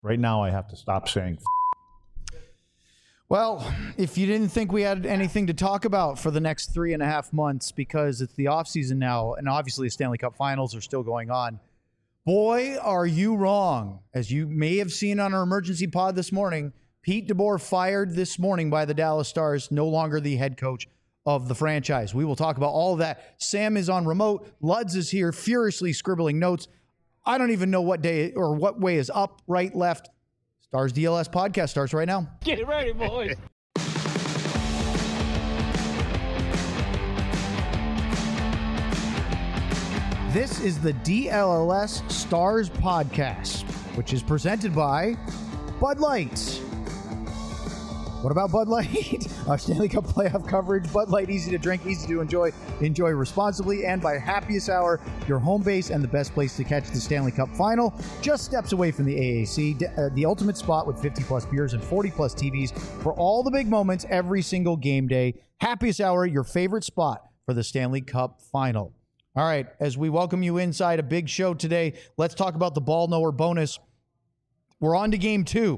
Right now, I have to stop saying. Well, if you didn't think we had anything to talk about for the next 3.5 months because it's the offseason now, and obviously the Stanley Cup Finals are still going on, boy, are you wrong. As you may have seen on our emergency pod this morning, Pete DeBoer fired this morning by the Dallas Stars, no longer the head coach of the franchise. We will talk about all of that. Sam is on remote. Luds is here furiously scribbling notes. I don't even know what day or what way is up, right, left. Stars DLS podcast starts right now. Get ready, boys. This is the DLS Stars podcast, which is presented by Bud Light. What about Bud Light? Our Stanley Cup playoff coverage. Bud Light, easy to drink, easy to enjoy. Enjoy responsibly. And by Happiest Hour, your home base and the best place to catch the Stanley Cup final. Just steps away from the AAC, the ultimate spot with 50-plus beers and 40-plus TVs for all the big moments every single game day. Happiest Hour, your favorite spot for the Stanley Cup final. All right, as we welcome you inside a big show today, let's talk about the Ball Knower bonus. We're on to game 2.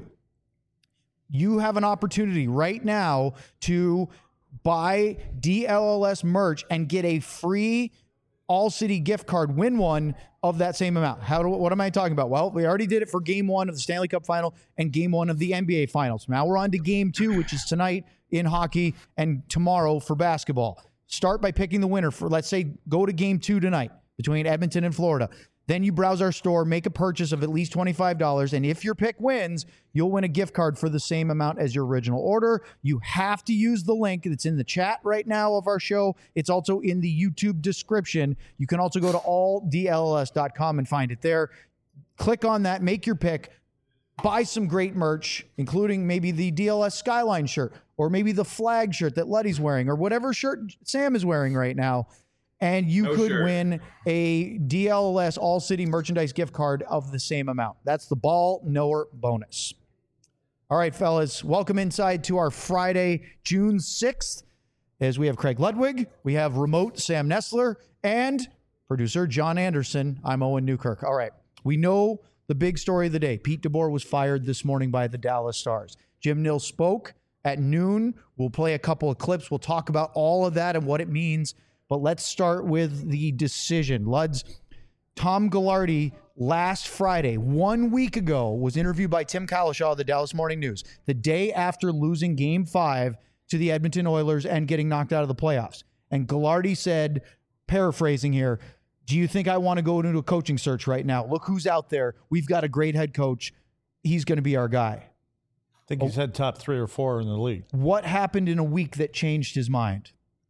You have an opportunity right now to buy DLLS merch and get a free All-City gift card, win one of that same amount. What am I talking about? Well, we already did it for game 1 of the Stanley Cup Final and game 1 of the NBA Finals. Now we're on to game 2, which is tonight in hockey and tomorrow for basketball. Start by picking the winner for, let's say, go to game 2 tonight between Edmonton and Florida. Then you browse our store, make a purchase of at least $25, and if your pick wins, you'll win a gift card for the same amount as your original order. You have to use the link that's in the chat right now of our show. It's also in the YouTube description. You can also go to alldlls.com and find it there. Click on that, make your pick, buy some great merch, including maybe the DLS Skyline shirt, or maybe the flag shirt that Luddy's wearing, or whatever shirt Sam is wearing right now. And you could win a DLS All-City merchandise gift card of the same amount. That's the Ball Knower bonus. All right, fellas, welcome inside to our Friday, June 6th, as we have Craig Ludwig, we have remote Sam Nestler, and producer John Anderson. I'm Owen Newkirk. All right, we know the big story of the day. Pete DeBoer was fired this morning by the Dallas Stars. Jim Nill spoke at noon. We'll play a couple of clips. We'll talk about all of that and what it means. But let's start with the decision. Luds, Tom Gaglardi last Friday, 1 week ago, was interviewed by Tim Kalishaw of the Dallas Morning News, the day after losing Game 5 to the Edmonton Oilers and getting knocked out of the playoffs. And Gaglardi said, paraphrasing here, do you think I want to go into a coaching search right now? Look who's out there. We've got a great head coach. He's going to be our guy. I think he's had top 3 or 4 in the league. What happened in a week that changed his mind?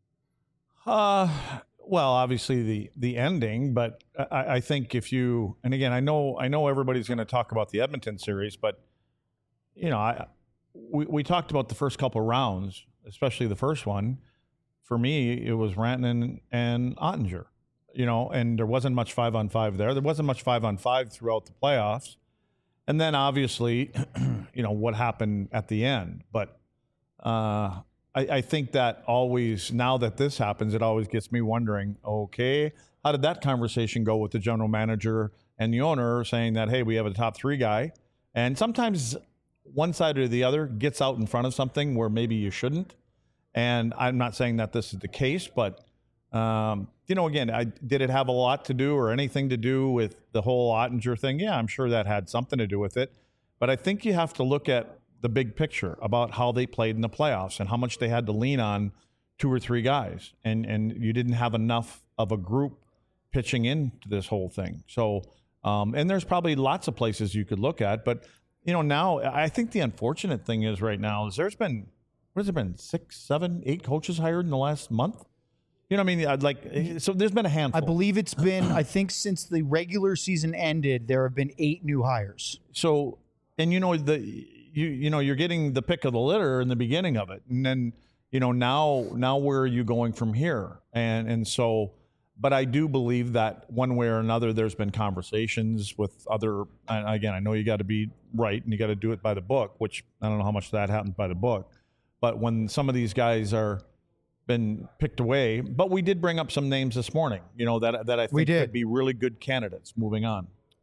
Well, obviously the ending, but I think if you, and again, I know everybody's going to talk about the Edmonton series, but you know, we talked about the first couple of rounds, especially the first one. For me, it was Rantanen and Ottinger, you know, and there wasn't much 5-on-5 there. There wasn't much 5-on-5 throughout the playoffs. And then obviously, you know, what happened at the end, but, I think that always, now that this happens, it always gets me wondering, okay, how did that conversation go with the general manager and the owner saying that, hey, we have a top 3 guy? And sometimes one side or the other gets out in front of something where maybe you shouldn't. And I'm not saying that this is the case, but, you know, again, did it have a lot to do or anything to do with the whole Ottinger thing? Yeah, I'm sure that had something to do with it. But I think you have to look at the big picture about how they played in the playoffs and how much they had to lean on 2 or 3 guys. And you didn't have enough of a group pitching into this whole thing. So, and there's probably lots of places you could look at. But, you know, now I think the unfortunate thing is right now is there's been, what has it been, 6, 7, 8 coaches hired in the last month? You know what I mean? Like, so there's been a handful. I believe it's been, I think since the regular season ended, there have been 8 new hires. So, and you know, you know, you're getting the pick of the litter in the beginning of it. And then, you know, now where are you going from here? And so, but I do believe that one way or another, there's been conversations with other, and again, I know you got to be right and you got to do it by the book, which I don't know how much that happens by the book. But when some of these guys are been picked away, but we did bring up some names this morning, you know, that I think could be really good candidates moving on.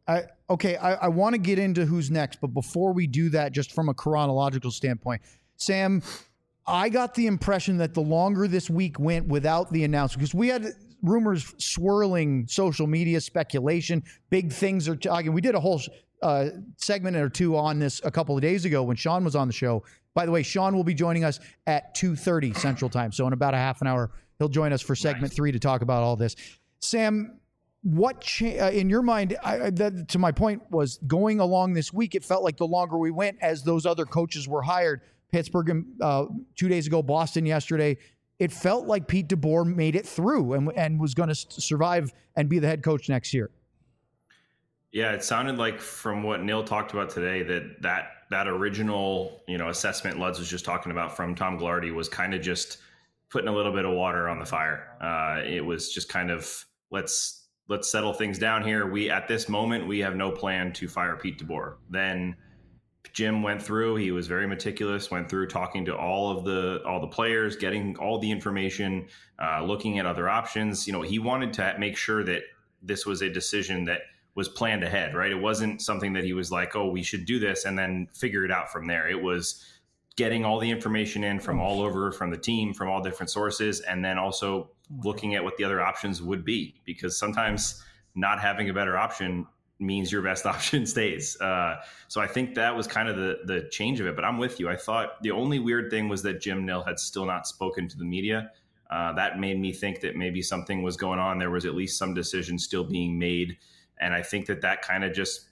I want to get into who's next, but before we do that, just from a chronological standpoint, Sam, I got the impression that the longer this week went without the announcement, because we had rumors swirling social media, speculation, big things are talking. We did a whole segment or two on this a couple of days ago when Sean was on the show. By the way, Sean will be joining us at 2:30 Central Time. So in about a half an hour, he'll join us for segment 3 to talk about all this. Sam, what in your mind, to my point, was going along this week, it felt like the longer we went as those other coaches were hired, Pittsburgh 2 days ago, Boston yesterday, it felt like Pete DeBoer made it through and was going to survive and be the head coach next year. Yeah, it sounded like from what Neil talked about today that original, assessment Luds was just talking about from Tom Glardy was kind of just putting a little bit of water on the fire. It was just kind of let's settle things down here. At this moment we have no plan to fire Pete DeBoer. Then Jim went through. He was very meticulous. Went through talking to all the players, getting all the information, looking at other options. He wanted to make sure that this was a decision that was planned ahead, right? It wasn't something that he was like, oh, we should do this and then figure it out from there. It was getting all the information in from all over, from the team, from all different sources, and then also looking at what the other options would be, because sometimes not having a better option means your best option stays. So I think that was kind of the change of it. But I'm with you. I thought the only weird thing was that Jim Nill had still not spoken to the media. That made me think that maybe something was going on. There was at least some decision still being made. And I think that kind of just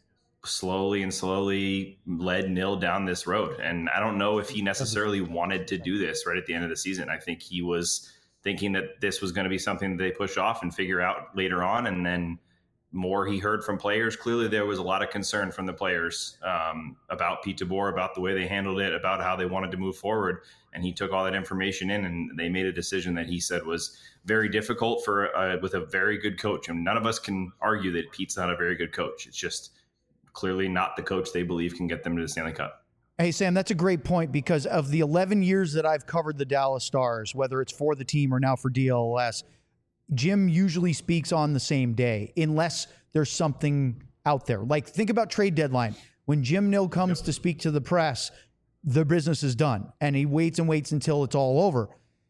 slowly led Nill down this road. And I don't know if he necessarily wanted to do this right at the end of the season. I think he was thinking that this was going to be something that they push off and figure out later on. And then more he heard from players. Clearly there was a lot of concern from the players about Pete DeBoer, about the way they handled it, about how they wanted to move forward. And he took all that information in, and they made a decision that he said was very difficult with a very good coach. And none of us can argue that Pete's not a very good coach. It's just clearly not the coach they believe can get them to the Stanley Cup. Hey, Sam, that's a great point, because of the 11 years that I've covered the Dallas Stars, whether it's for the team or now for DLS, Jim usually speaks on the same day unless there's something out there. Like, think about trade deadline. When Jim Nill comes to speak to the press, the business is done, and he waits until it's all over.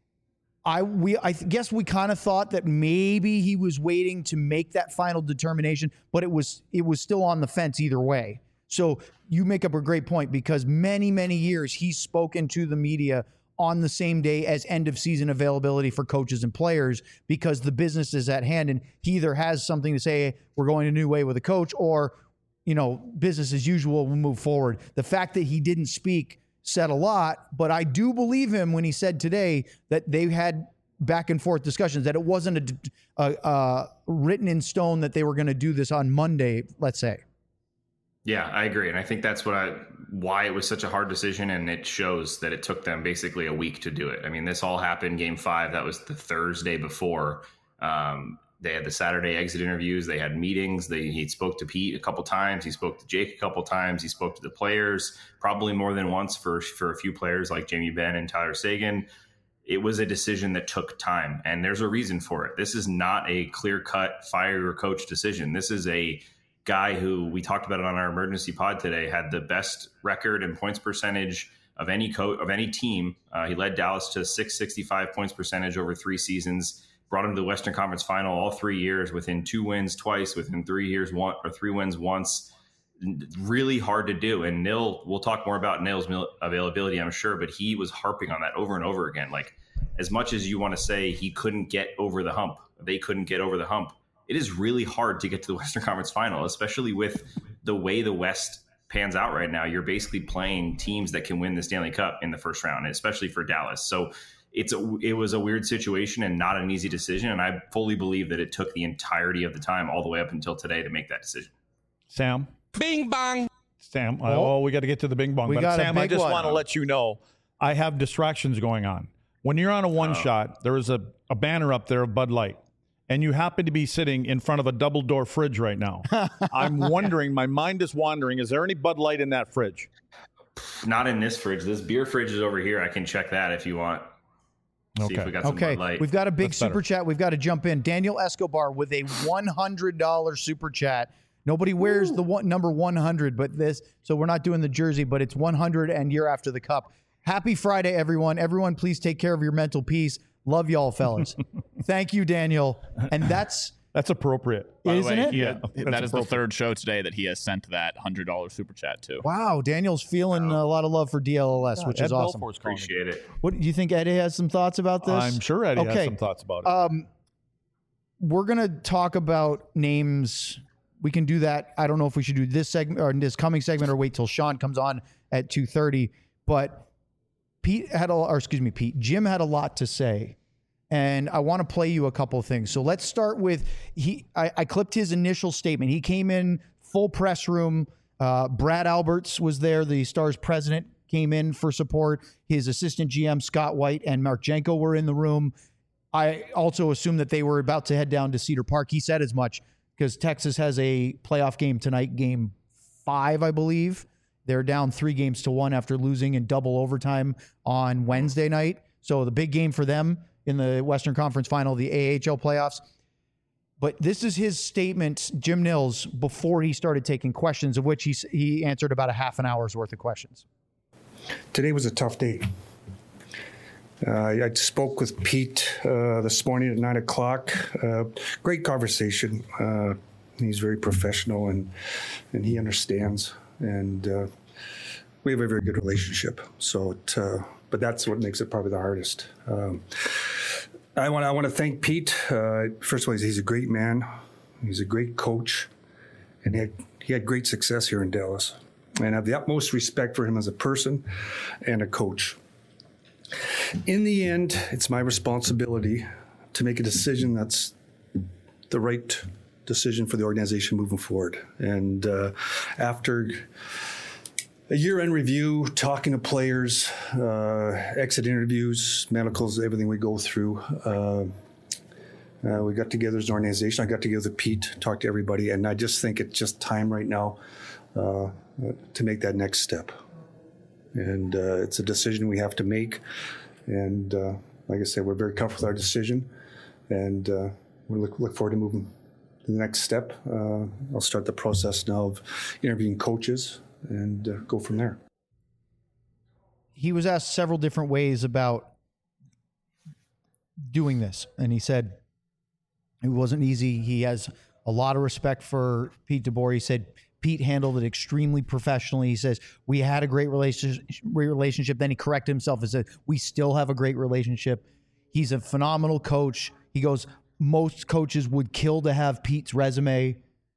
I guess we kind of thought that maybe he was waiting to make that final determination, but it was still on the fence either way. So you make up a great point, because many, many years he's spoken to the media on the same day as end of season availability for coaches and players, because the business is at hand, and he either has something to say, we're going a new way with a coach, or, business as usual, we'll move forward. The fact that he didn't speak said a lot, but I do believe him when he said today that they had back and forth discussions, that it wasn't a written in stone that they were going to do this on Monday, let's say. Yeah, I agree. And I think that's why it was such a hard decision. And it shows that it took them basically a week to do it. I mean, this all happened Game 5. That was the Thursday before. They had the Saturday exit interviews. They had meetings. He spoke to Pete a couple times. He spoke to Jake a couple times. He spoke to the players, probably more than once for a few players like Jamie Benn and Tyler Seguin. It was a decision that took time, and there's a reason for it. This is not a clear-cut fire your coach decision. This is a guy who, we talked about it on our emergency pod today, had the best record and points percentage of any team. He led Dallas to 665 points percentage over 3 seasons. Brought him to the Western Conference Final all 3 years, within 2 wins twice, within 3 years, 3 wins once. Really hard to do. And Nill, we'll talk more about Nill's availability, I'm sure, but he was harping on that over and over again. Like, as much as you want to say he couldn't get over the hump, they couldn't get over the hump, it is really hard to get to the Western Conference Final, especially with the way the West pans out right now. You're basically playing teams that can win the Stanley Cup in the first round, especially for Dallas. So it was a weird situation and not an easy decision. And I fully believe that it took the entirety of the time all the way up until today to make that decision. Sam? Bing bong. Sam, we got to get to the bing bong. But Sam, I just want to let you know, I have distractions going on. When you're on a one shot, there is a banner up there of Bud Light, and you happen to be sitting in front of a double door fridge right now. I'm wondering, my mind is wandering, is there any Bud Light in that fridge? Not in this fridge. This beer fridge is over here. I can check that if you want. See if we got some Bud Light. We've got a big super chat. We've got to jump in. Daniel Escobar with a $100 super chat. Nobody wears the number 100, but so we're not doing the jersey, but it's 100 and year after the cup. Happy Friday, everyone. Everyone, please take care of your mental peace. Love y'all, fellas. Thank you, Daniel. And that's appropriate. Isn't it? Yeah, that is the third show today that he has sent that $100 super chat to. Wow, Daniel's feeling a lot of love for DLLS, which is awesome. Appreciate it. What do you think? Eddie has some thoughts about this? I'm sure Eddie has some thoughts about it. We're gonna talk about names. We can do that. I don't know if we should do this segment or this coming segment or wait till Sean comes on at 2:30. But Jim had a lot to say. And I want to play you a couple of things. So let's start with, I clipped his initial statement. He came in full press room. Brad Alberts was there. The Stars president came in for support. His assistant GM, Scott White, and Mark Janko were in the room. I also assumed that they were about to head down to Cedar Park. He said as much because Texas has a playoff game tonight, game 5, I believe. They're down 3-1 after losing in double overtime on Wednesday night. So the big game for them in the Western Conference Final, the AHL playoffs. But this is his statement, Jim Nils, before he started taking questions, of which he answered about a half an hour's worth of questions. Today was a tough day. I spoke with Pete this morning at 9 o'clock. Great conversation. He's very professional and he understands. And we have a very good relationship. So, but that's what makes it probably the hardest. I want to thank Pete. First of all, he's a great man. He's a great coach, and he had great success here in Dallas. And I have the utmost respect for him as a person and a coach. In the end, it's my responsibility to make a decision that's the right decision for the organization moving forward. And after a year-end review, talking to players, exit interviews, medicals, everything we go through. We got together as an organization. I got together with Pete, talked to everybody, and I just think it's just time right now to make that next step. And it's a decision we have to make. And like I said, we're very comfortable with our decision, and we look forward to moving to the next step. I'll start the process now of interviewing coaches and go from there. He was asked several different ways about doing this, and he said it wasn't easy. He has a lot of respect for Pete DeBoer. He said Pete handled it extremely professionally. He says, we had a great relationship. Then he corrected himself and said, we still have a great relationship. He's a phenomenal coach. He goes, most coaches would kill to have Pete's resume,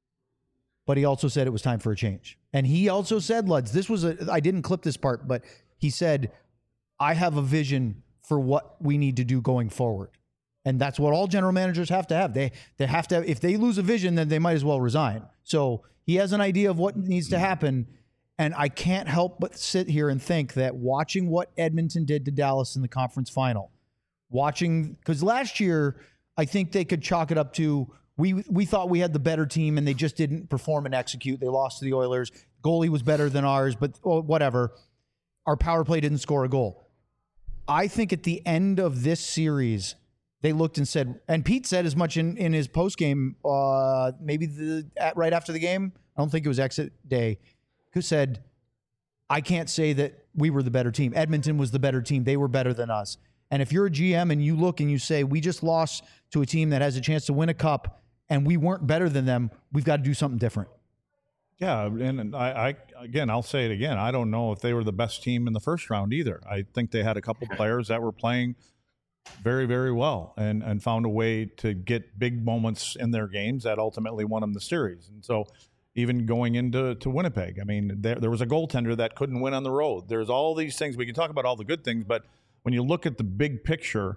but he also said it was time for a change. And he also said, Luds, I didn't clip this part, but he said, I have a vision for what we need to do going forward. And that's what all general managers have to have. They have to have, if they lose a vision, then they might as well resign. So he has an idea of what needs to happen. And I can't help but sit here and think that watching what Edmonton did to Dallas in the conference final, because last year, I think they could chalk it up to, we thought we had the better team and they just didn't perform and execute. They lost to the Oilers. Goalie was better than ours, but whatever. Our power play didn't score a goal. I think at the end of this series, they looked and said, and Pete said as much in his postgame, maybe right after the game, I don't think it was exit day, who said, I can't say that we were the better team. Edmonton was the better team. They were better than us. And if you're a GM and you look and you say, we just lost to a team that has a chance to win a cup and we weren't better than them, we've got to do something different. Yeah, and I'll say it again. I don't know if they were the best team in the first round either. I think they had a couple players that were playing very, very well and found a way to get big moments in their games that ultimately won them the series. And so even going into Winnipeg, I mean, there was a goaltender that couldn't win on the road. There's all these things. We can talk about all the good things, but when you look at the big picture,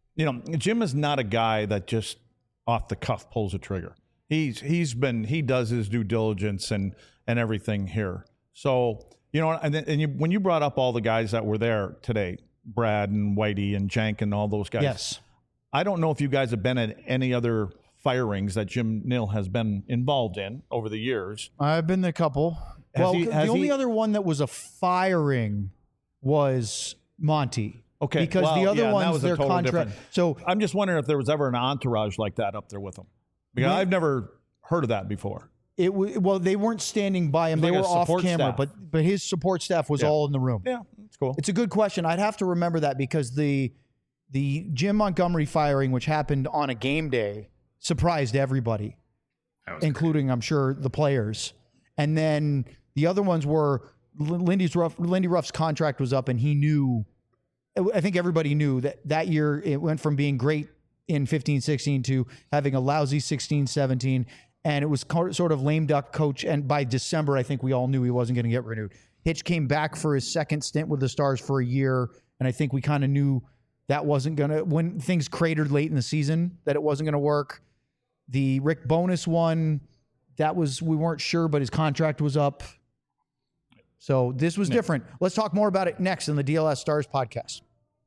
Jim is not a guy that just off the cuff pulls a trigger. He does his due diligence and everything here. So, when you brought up all the guys that were there today, Brad and Whitey and Jank and all those guys. Yes. I don't know if you guys have been at any other firings that Jim Nill has been involved in over the years. I've been to a couple. The only other one that was a firing was Monty. Okay. Because the other ones, their contract. So I'm just wondering if there was ever an entourage like that up there with them. Because I've never heard of that before. Well, they weren't standing by him. They like were a off support camera, staff. but his support staff was all in the room. Yeah, that's cool. It's a good question. I'd have to remember that because the Jim Montgomery firing, which happened on a game day, surprised everybody, including, I'm sure, the players. And then the other ones were Lindy Ruff's contract was up, and he knew. I think everybody knew that year it went from being great in 15-16 to having a lousy 16-17, and it was sort of lame duck coach. And by December, I think we all knew he wasn't going to get renewed. Hitch came back for his second stint with the Stars for a year, and I think we kind of knew that wasn't going to, when things cratered late in the season, that it wasn't going to work. The Rick Bowness one, we weren't sure, but his contract was up. So this was different. Let's talk more about it next in the DLS Stars podcast.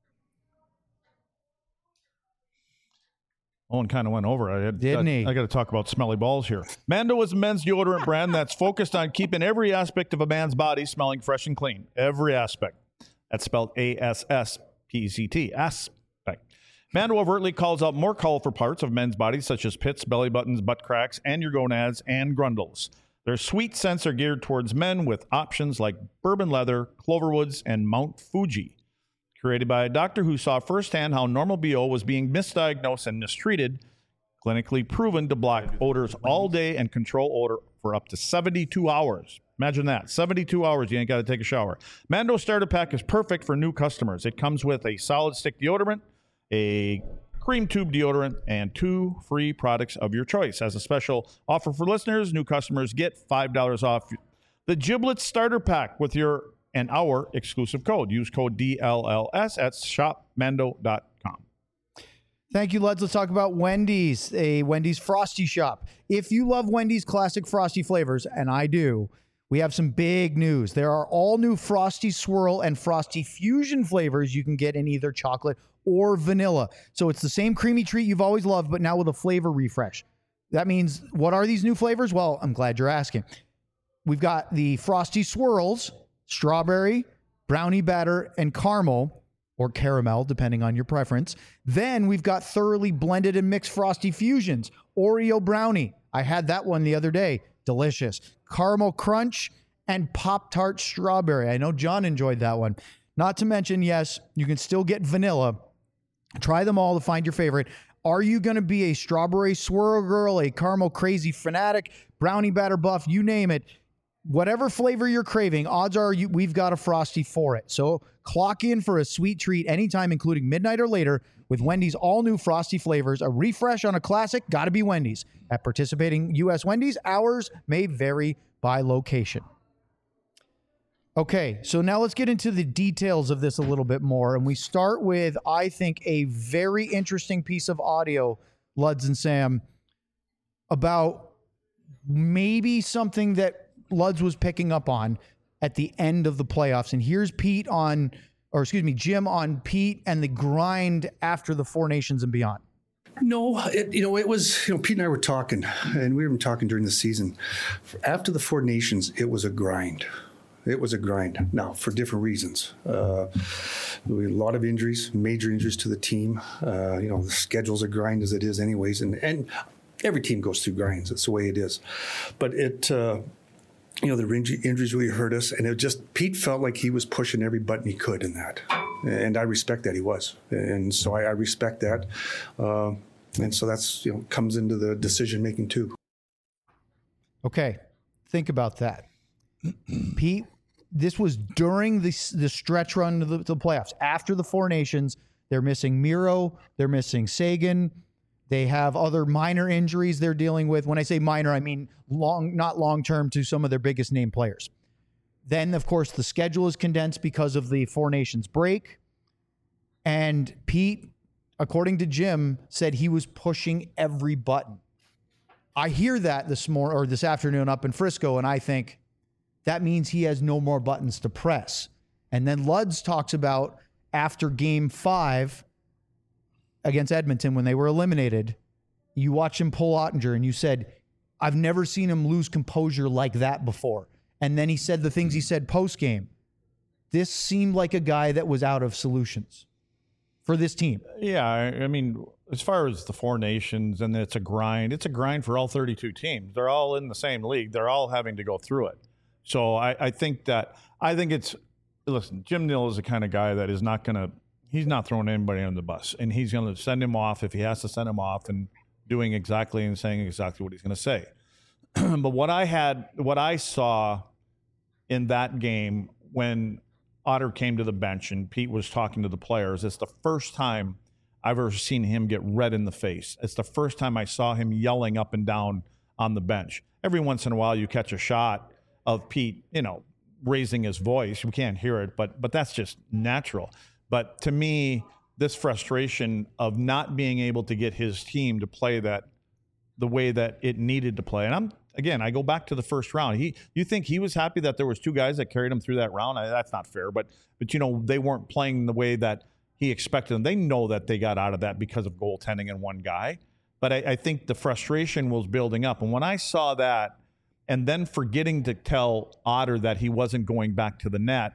Owen kind of went over it. Didn't he? I got to talk about smelly balls here. Mando is a men's deodorant brand that's focused on keeping every aspect of a man's body smelling fresh and clean. Every aspect. That's spelled A-S-S-P-E-C-T. Aspect. Mando overtly calls out more colorful parts of men's bodies, such as pits, belly buttons, butt cracks, and your gonads and grundles. Their sweet scents are geared towards men with options like bourbon leather, Cloverwoods, and Mount Fuji. Created by a doctor who saw firsthand how normal BO was being misdiagnosed and mistreated, clinically proven to block odors all day and control odor for up to 72 hours. Imagine that. 72 hours, you ain't got to take a shower. Mando Starter Pack is perfect for new customers. It comes with a solid stick deodorant, a cream tube deodorant, and 2 free products of your choice. As a special offer for listeners, new customers get $5 off the Giblets Starter Pack with our exclusive code. Use code DLLS at shopmando.com. Thank you, Luds. Let's talk about Wendy's, a Wendy's Frosty shop. If you love Wendy's classic Frosty flavors, and I do, we have some big news. There are all new Frosty Swirl and Frosty Fusion flavors you can get in either chocolate or vanilla. So it's the same creamy treat you've always loved, but now with a flavor refresh. That means, what are these new flavors? Well, I'm glad you're asking. We've got the Frosty Swirls, strawberry, brownie batter, and caramel, or caramel, depending on your preference. Then we've got thoroughly blended and mixed Frosty Fusions, Oreo brownie. I had that one the other day. Delicious. Caramel crunch and Pop-Tart strawberry. I know John enjoyed that one. Not to mention, yes, you can still get vanilla. Try them all to find your favorite. Are you going to be a strawberry swirl girl, a caramel crazy fanatic, brownie batter buff, you name it? Whatever flavor you're craving, odds are we've got a Frosty for it. So clock in for a sweet treat anytime, including midnight or later, with Wendy's all-new Frosty flavors. A refresh on a classic, gotta be Wendy's. At participating U.S. Wendy's, hours may vary by location. Okay, so now let's get into the details of this a little bit more. And we start with, I think, a very interesting piece of audio, Luds and Sam, about maybe something that Luds was picking up on at the end of the playoffs. And here's Jim on Pete and the grind after the Four Nations and beyond. No, it was, Pete and I were talking, and we were talking during the season. After the Four Nations, it was a grind. It was a grind. Now, for different reasons. We had a lot of injuries, major injuries to the team. The schedule's a grind as it is anyways. And every team goes through grinds. It's the way it is. But the injuries really hurt us. And Pete felt like he was pushing every button he could in that. And I respect that he was. And so I respect that. And so that's, comes into the decision making too. Okay. Think about that. Pete, this was during the stretch run to the playoffs. After the Four Nations, they're missing Miro, they're missing Sagan. They have other minor injuries they're dealing with. When I say minor, I mean not long-term to some of their biggest name players. Then, of course, the schedule is condensed because of the Four Nations break. And Pete, according to Jim, said he was pushing every button. I hear that this afternoon up in Frisco, and I think that means he has no more buttons to press. And then Luds talks about after Game 5 against Edmonton when they were eliminated, you watch him pull Ottinger and you said, I've never seen him lose composure like that before. And then he said the things he said post-game. This seemed like a guy that was out of solutions for this team. Yeah, I mean, as far as the Four Nations, and it's a grind for all 32 teams. They're all in the same league. They're all having to go through it. So I think it's, listen, Jim Nill is the kind of guy that is not going to, he's not throwing anybody on the bus, and he's going to send him off if he has to send him off, and doing exactly and saying exactly what he's going to say. But what I saw in that game when Otter came to the bench and Pete was talking to the players, it's the first time I've ever seen him get red in the face. It's the first time I saw him yelling up and down on the bench. Every once in a while you catch a shot of Pete, raising his voice. We can't hear it, but that's just natural. But to me, this frustration of not being able to get his team to play that the way that it needed to play. And I go back to the first round. You think he was happy that there was two guys that carried him through that round? That's not fair. But they weren't playing the way that he expected them. They know that they got out of that because of goaltending and one guy. But I think the frustration was building up. And when I saw that, and then forgetting to tell Otter that he wasn't going back to the net,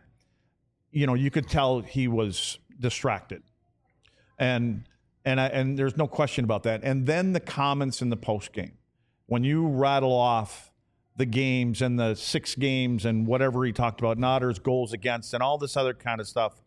you could tell he was distracted. And there's no question about that. And then the comments in the post game, when you rattle off the games and the 6 games and whatever he talked about, Otter's goals against and all this other kind of stuff,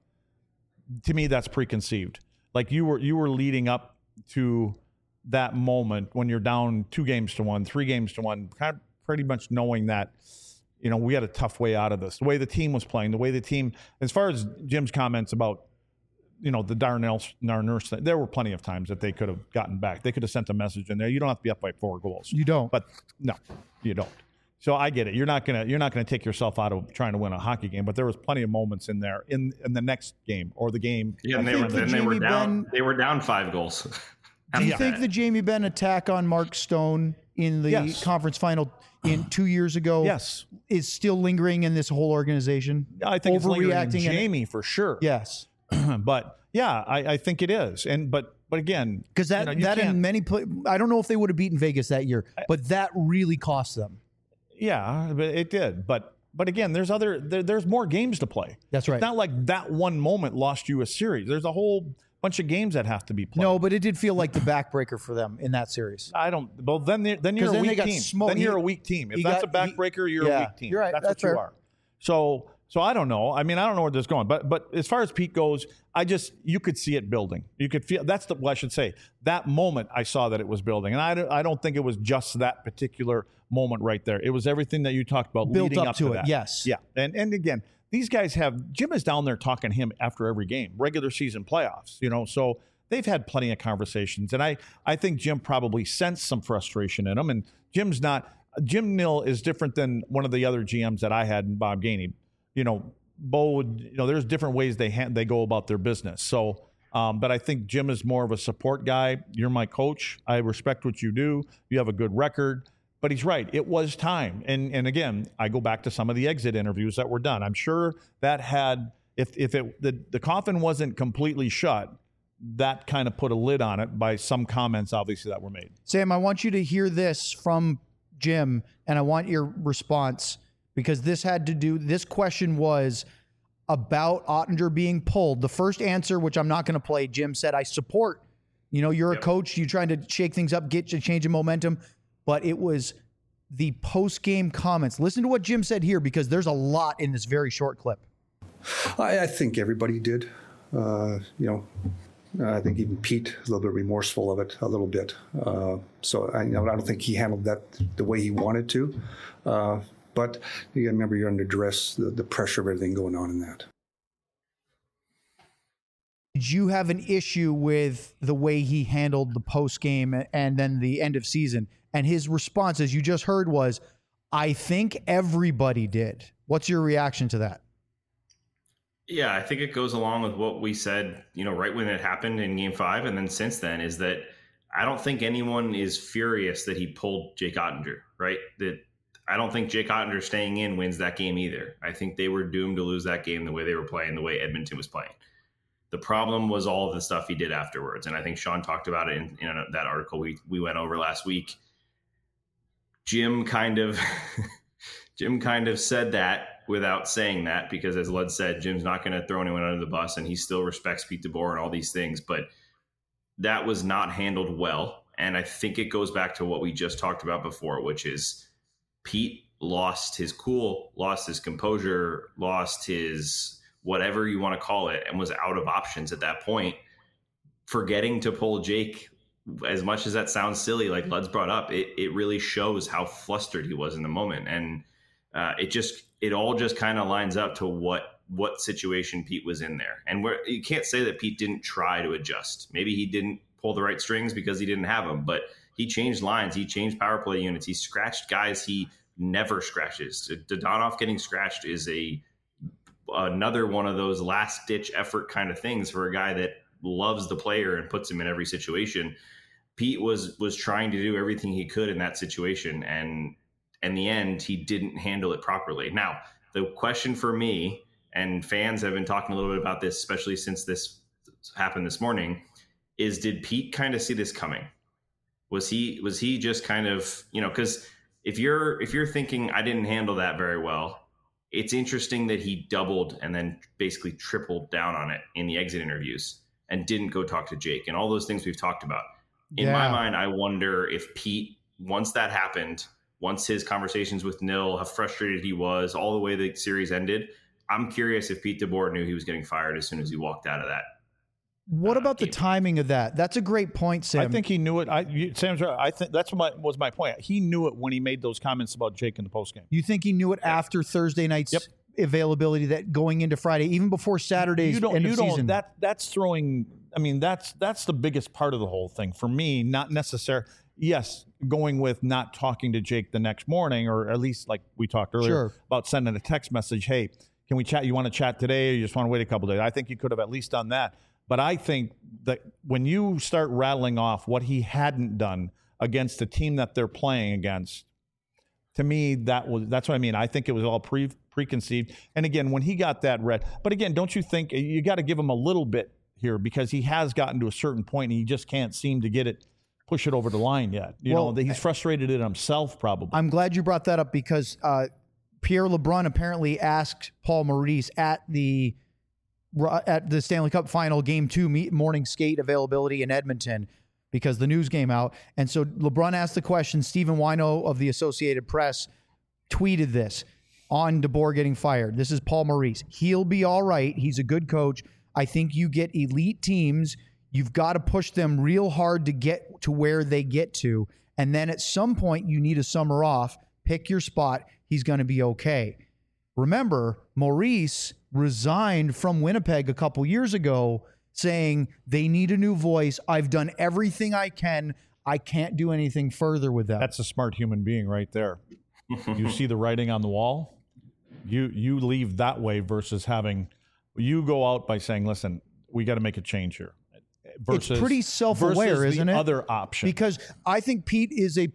to me, that's preconceived. Like you were leading up to that moment when you're down 2-1, 3-1, kind of pretty much knowing that, we had a tough way out of this. The way the team was playing, the way the team, as far as Jim's comments about, the Darnell Nurse thing, there were plenty of times that they could have gotten back. They could have sent a message in there. You don't have to be up by 4 goals. You don't. But no, you don't. So I get it. You're not gonna take yourself out of trying to win a hockey game. But there was plenty of moments in there in the next game or the game. Yeah, and they were down. They were down 5 goals. Do you think the Jamie Benn attack on Mark Stone in the conference final in 2 years ago is still lingering in this whole organization? I think it's lingering in Jamie for sure. Yes. But yeah, I think it is. But again, because that in many I don't know if they would have beaten Vegas that year, but that really cost them. Yeah, but it did. But again, there's more games to play. That's right. It's not like that one moment lost you a series. There's a whole bunch of games that have to be played. No, but it did feel like the backbreaker for them in that series. I don't. Well, then you're a weak team. Then you're a weak team. If that's a backbreaker, you're a weak team. You're right. That's what you are. So I don't know. I mean, I don't know where this is going. But as far as Pete goes, you could see it building. You could feel. I should say. That moment, I saw that it was building, and I don't think it was just that particular moment right there. It was everything that you talked about built leading up to it. That. Yes. Yeah. And again, these guys Jim is down there talking to him after every game, regular season playoffs. So they've had plenty of conversations, and I think Jim probably sensed some frustration in him. And Jim Nill is different than one of the other GMs that I had in Bob Gainey. Bo would, there's different ways they go about their business. So, but I think Jim is more of a support guy. You're my coach. I respect what you do. You have a good record. But he's right. It was time. And again, I go back to some of the exit interviews that were done. I'm sure that had, if the coffin wasn't completely shut, that kind of put a lid on it by some comments, obviously, that were made. Sam, I want you to hear this from Jim, and I want your response, because this question was about Oettinger being pulled. The first answer, which I'm not going to play, Jim said, I support, you're a coach, you're trying to shake things up, get a change of momentum. But it was the post-game comments. Listen to what Jim said here, because there's a lot in this very short clip. I think everybody did. I think even Pete was a little bit remorseful of it, a little bit. So I don't think he handled that the way he wanted to. But you got to remember, you're under duress, the pressure of everything going on in that. Did you have an issue with the way he handled the post game and then the end of season? And his response, as you just heard, was, I think everybody did. What's your reaction to that? Yeah, I think it goes along with what we said, right when it happened in Game 5. And then since then is that I don't think anyone is furious that he pulled Jake Oettinger, right? That I don't think Jake Oettinger staying in wins that game either. I think they were doomed to lose that game the way they were playing, the way Edmonton was playing. The problem was all of the stuff he did afterwards. And I think Sean talked about it in that article we went over last week. Jim kind of said that without saying that, because as Lud said, Jim's not going to throw anyone under the bus, and he still respects Pete DeBoer and all these things. But that was not handled well. And I think it goes back to what we just talked about before, which is Pete lost his cool, lost his composure, lost his whatever you want to call it, and was out of options at that point, forgetting to pull Jake. As much as that sounds silly, like Lud's brought up, it really shows how flustered he was in the moment. And it all just kind of lines up to what situation Pete was in there. And you can't say that Pete didn't try to adjust. Maybe he didn't pull the right strings because he didn't have them, but he changed lines. He changed power play units. He scratched guys he never scratches. Dadonov getting scratched is another one of those last ditch effort kind of things for a guy that loves the player and puts him in every situation. Pete was trying to do everything he could in that situation, and in the end, he didn't handle it properly. Now, the question for me, and fans have been talking a little bit about this, especially since this happened this morning, is did Pete kind of see this coming? Was he just kind of, because if you're thinking I didn't handle that very well, it's interesting that he doubled and then basically tripled down on it in the exit interviews and didn't go talk to Jake and all those things we've talked about. In my mind, I wonder if Pete, once that happened, once his conversations with Nil, how frustrated he was, all the way the series ended, I'm curious if Pete DeBoer knew he was getting fired as soon as he walked out of that. What about the timing of that? That's a great point, Sam. I think he knew it. Sam's right. I think that's was my point. He knew it when he made those comments about Jake in the postgame. You think he knew it after Thursday night's availability, that going into Friday, even before Saturday's end of season? That's throwing. I mean, that's the biggest part of the whole thing for me. Not necessary. Yes, going with not talking to Jake the next morning, or at least like we talked earlier about sending a text message. Hey, can we chat? You want to chat today, or you just want to wait a couple of days? I think you could have at least done that. But I think that when you start rattling off what he hadn't done against the team that they're playing against, to me, that's what I mean. I think it was all preconceived. And again, when he got that red, but again, don't you think you got to give him a little bit here, because he has gotten to a certain point and he just can't seem to push it over the line yet. You know, he's frustrated in himself probably. I'm glad you brought that up, because Pierre LeBrun apparently asked Paul Maurice at the Stanley Cup Final Game 2 morning skate availability in Edmonton, because the news came out. And so LeBrun asked the question. Stephen Wino of the Associated Press tweeted this on DeBoer getting fired. This is Paul Maurice. He'll be all right. He's a good coach. I think you get elite teams. You've got to push them real hard to get to where they get to. And then at some point, you need a summer off. Pick your spot. He's going to be okay. Remember, Maurice resigned from Winnipeg a couple years ago saying they need a new voice. I've done everything I can. I can't do anything further with that. That's a smart human being right there. You see the writing on the wall. You leave that way versus you go out by saying, listen, we got to make a change here. It's pretty self-aware, isn't it? Other option. Because I think Pete is I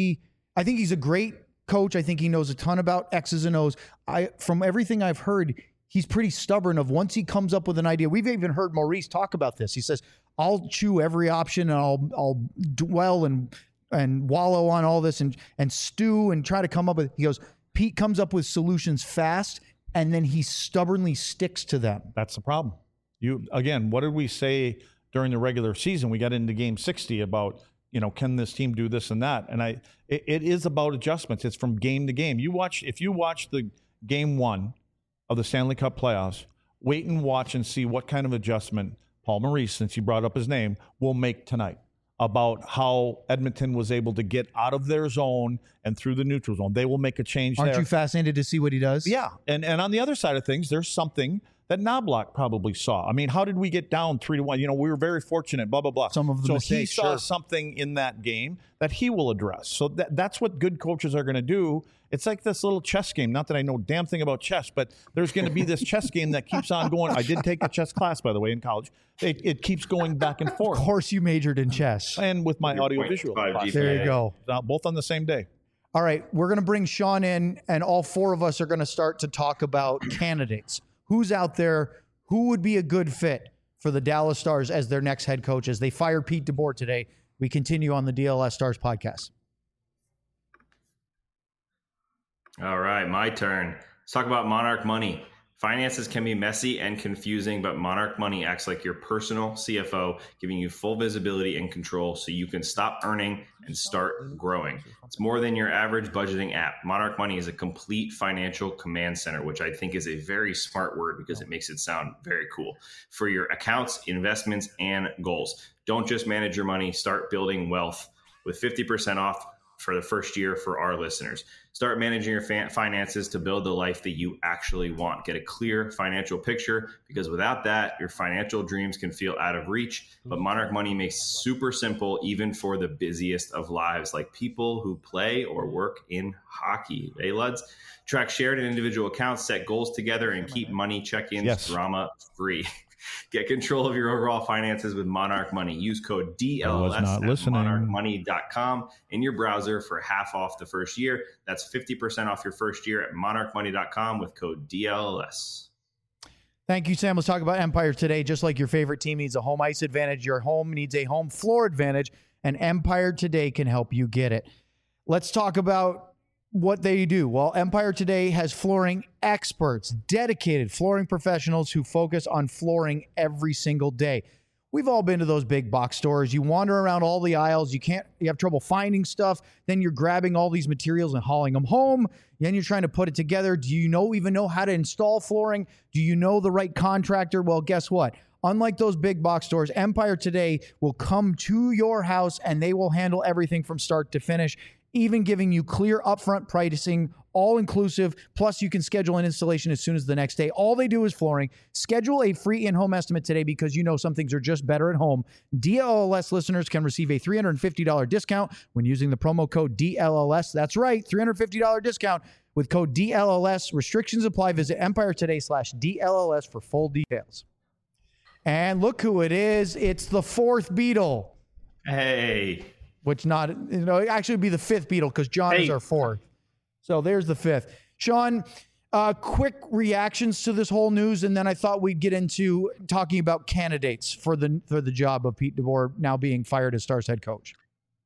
think he's a great coach. I think he knows a ton about X's and O's. From everything I've heard, he's pretty stubborn of once he comes up with an idea. We've even heard Maurice talk about this. He says, I'll chew every option and I'll dwell and wallow on all this and stew and try to come up with, he goes, Pete comes up with solutions fast and then he stubbornly sticks to them. That's the problem. Again, what did we say during the regular season? We got into game 60 about, can this team do this and that? And it is about adjustments. It's from game to game. If you watch the game 1 of the Stanley Cup playoffs, wait and watch and see what kind of adjustment Paul Maurice, since you brought up his name, will make tonight about how Edmonton was able to get out of their zone and through the neutral zone. They will make a change there. Aren't you fascinated to see what he does? Yeah. And on the other side of things, there's something that Knobloch probably saw. I mean, how did we get down 3-1? We were very fortunate, blah, blah, blah. Some of the mistakes, he saw something in that game that he will address. So that's what good coaches are going to do. It's like this little chess game. Not that I know a damn thing about chess, but there's going to be this chess game that keeps on going. I did take a chess class, by the way, in college. It keeps going back and forth. Of course you majored in chess. And with my audiovisual class. There you go. Both on the same day. All right, we're going to bring Sean in, and all four of us are going to start to talk about candidates. Who's out there? Who would be a good fit for the Dallas Stars as their next head coach as they fire Pete DeBoer today? We continue on the DLS Stars podcast. All right, my turn. Let's talk about Monarch Money. Finances can be messy and confusing, but Monarch Money acts like your personal CFO, giving you full visibility and control so you can stop earning and start growing. It's more than your average budgeting app. Monarch Money is a complete financial command center, which I think is a very smart word because it makes it sound very cool, for your accounts, investments, and goals. Don't just manage your money, start building wealth with 50% off for the first year for our listeners. Start managing your finances to build the life that you actually want. Get a clear financial picture, because without that, your financial dreams can feel out of reach. But Monarch Money makes super simple, even for the busiest of lives, like people who play or work in hockey. Hey, Luds, track shared and individual accounts, set goals together, and keep money check-ins drama free. Get control of your overall finances with Monarch Money. Use code DLLS at monarchmoney.com in your browser for half off the first year. That's 50% off your first year at monarchmoney.com with code DLLS. Thank you, Sam. Let's talk about Empire Today. Just like your favorite team needs a home ice advantage, your home needs a home floor advantage, and Empire Today can help you get it. Let's talk about what they do. Well, Empire Today has flooring experts, dedicated flooring professionals who focus on flooring every single day. We've all been to those big box stores. You wander around all the aisles. You have trouble finding stuff. Then you're grabbing all these materials and hauling them home. Then you're trying to put it together. Do you even know how to install flooring? Do you know the right contractor? Well, guess what? Unlike those big box stores, Empire Today will come to your house and they will handle everything from start to finish, even giving you clear upfront pricing, all inclusive. Plus, you can schedule an installation as soon as the next day. All they do is flooring. Schedule a free in-home estimate today, because you know some things are just better at home. DLLS listeners can receive a $350 discount when using the promo code DLLS. That's right, $350 discount with code DLLS. Restrictions apply. Visit EmpireToday/DLLS for full details. And look who it is. It's the fourth Beatle. Hey. Which it actually would be the fifth Beatle, because John is our fourth. So there's the fifth. Sean, quick reactions to this whole news, and then I thought we'd get into talking about candidates for the job of Pete DeBoer now being fired as Stars head coach.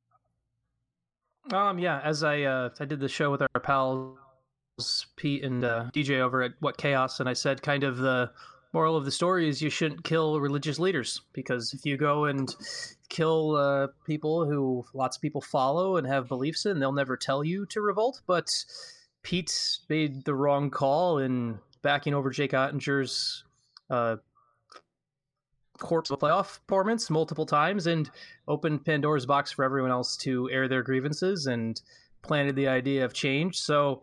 Yeah, as I did the show with our pals Pete and DJ over at What Chaos, and I said kind of the moral of the story is you shouldn't kill religious leaders, because if you go and kill people who lots of people follow and have beliefs in, they'll never tell you to revolt. But Pete made the wrong call in backing over Jake Ottinger's corpse playoff performance multiple times and opened Pandora's box for everyone else to air their grievances and planted the idea of change. So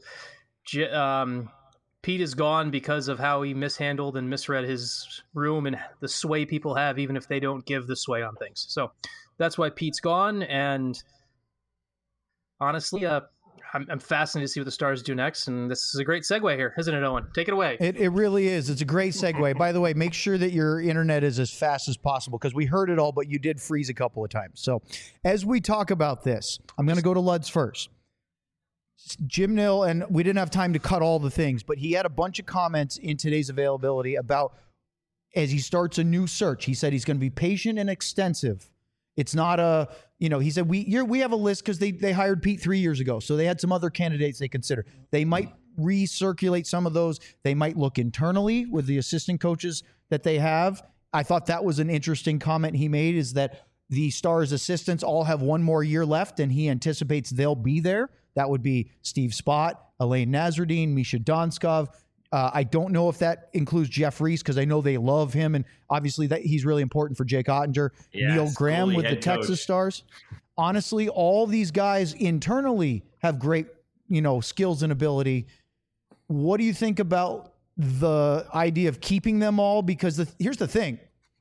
Pete is gone because of how he mishandled and misread his room and the sway people have, even if they don't give the sway on things. So that's why Pete's gone. And honestly, I'm fascinated to see what the Stars do next. And this is a great segue here, isn't it, Owen? Take it away. It really is. It's a great segue. By the way, make sure that your internet is as fast as possible, because we heard it all, but you did freeze a couple of times. So as we talk about this, I'm going to go to Luds first. Jim Nill, and we didn't have time to cut all the things, but he had a bunch of comments in today's availability about, as he starts a new search, he said he's going to be patient and extensive. It's not he said, we have a list because they hired Pete 3 years ago. So they had some other candidates they consider. They might recirculate some of those. They might look internally with the assistant coaches that they have. I thought that was an interesting comment he made, is that the Stars assistants all have one more year left, and he anticipates they'll be there. That would be Steve Spott, Elaine Nasruddin, Misha Donskov. I don't know if that includes Jeff Reese, because I know they love him, and obviously that he's really important for Jake Ottinger. Yes, Neil Graham with the coach. Texas Stars. Honestly, all these guys internally have great, skills and ability. What do you think about the idea of keeping them all? Because here's the thing.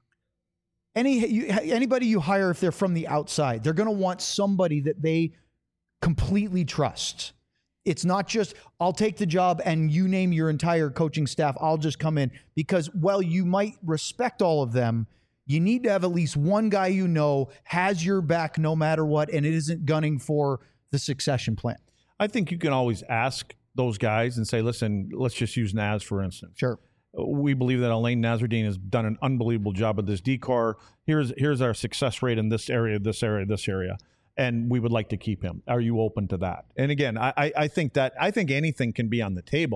Anybody you hire, if they're from the outside, they're going to want somebody that they completely trust. It's not just, I'll take the job and you name your entire coaching staff, I'll just come in. Because while you might respect all of them, you need to have at least one guy has your back no matter what, and it isn't gunning for the succession plan. I think you can always ask those guys and say, listen, let's just use Naz, for instance. Sure. We believe that Elaine Nasruddin has done an unbelievable job at this decor. Here's our success rate in this area, this area, this area. And we would like to keep him. Are you open to that? And again, I think anything can be on the table.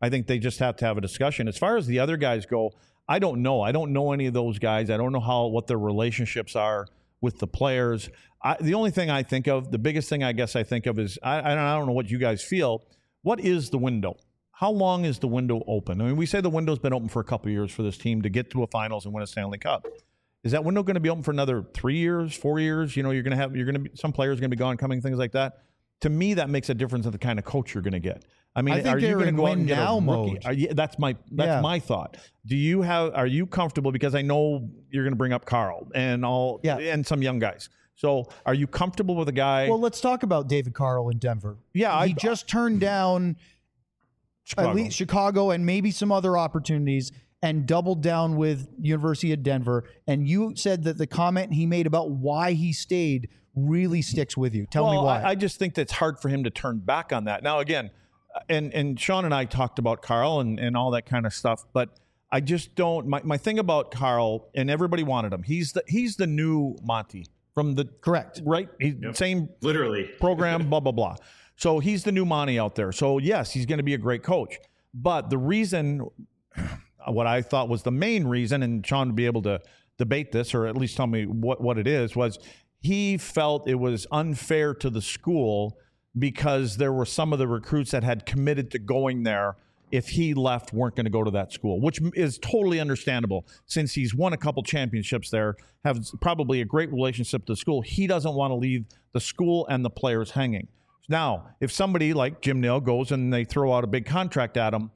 I think they just have to have a discussion. As far as the other guys go, I don't know. I don't know any of those guys. I don't know what their relationships are with the players. The only thing I think of, the biggest thing I guess I think of is, I don't know what you guys feel. What is the window? How long is the window open? I mean, we say the window's been open for a couple of years for this team to get to a finals and win a Stanley Cup. Is that window going to be open for another 3 years, 4 years? You know, some players are going to be gone, coming, things like that. To me, that makes a difference in the kind of coach you're going to get. I mean, are you going to go out and get a rookie? That's my thought. Are you comfortable? Because I know you're going to bring up Carl and some young guys. So are you comfortable with a guy? Well, let's talk about David Carl in Denver. Yeah. He just turned down at least Chicago and maybe some other opportunities and doubled down with University of Denver. And you said that the comment he made about why he stayed really sticks with you. Tell me why. I just think that's hard for him to turn back on that. Now, again, and Sean and I talked about Carl and all that kind of stuff, but I just don't. My thing about Carl, and everybody wanted him. He's the new Monty from the correct, right? Same literally program, blah blah blah. So he's the new Monty out there. So yes, he's going to be a great coach. But the reason, what I thought was the main reason, and Sean would be able to debate this or at least tell me what it is, was he felt it was unfair to the school because there were some of the recruits that had committed to going there. If he left, weren't going to go to that school, which is totally understandable since he's won a couple championships there, has probably a great relationship to the school. He doesn't want to leave the school and the players hanging. Now, if somebody like Jim Nill goes and they throw out a big contract at him,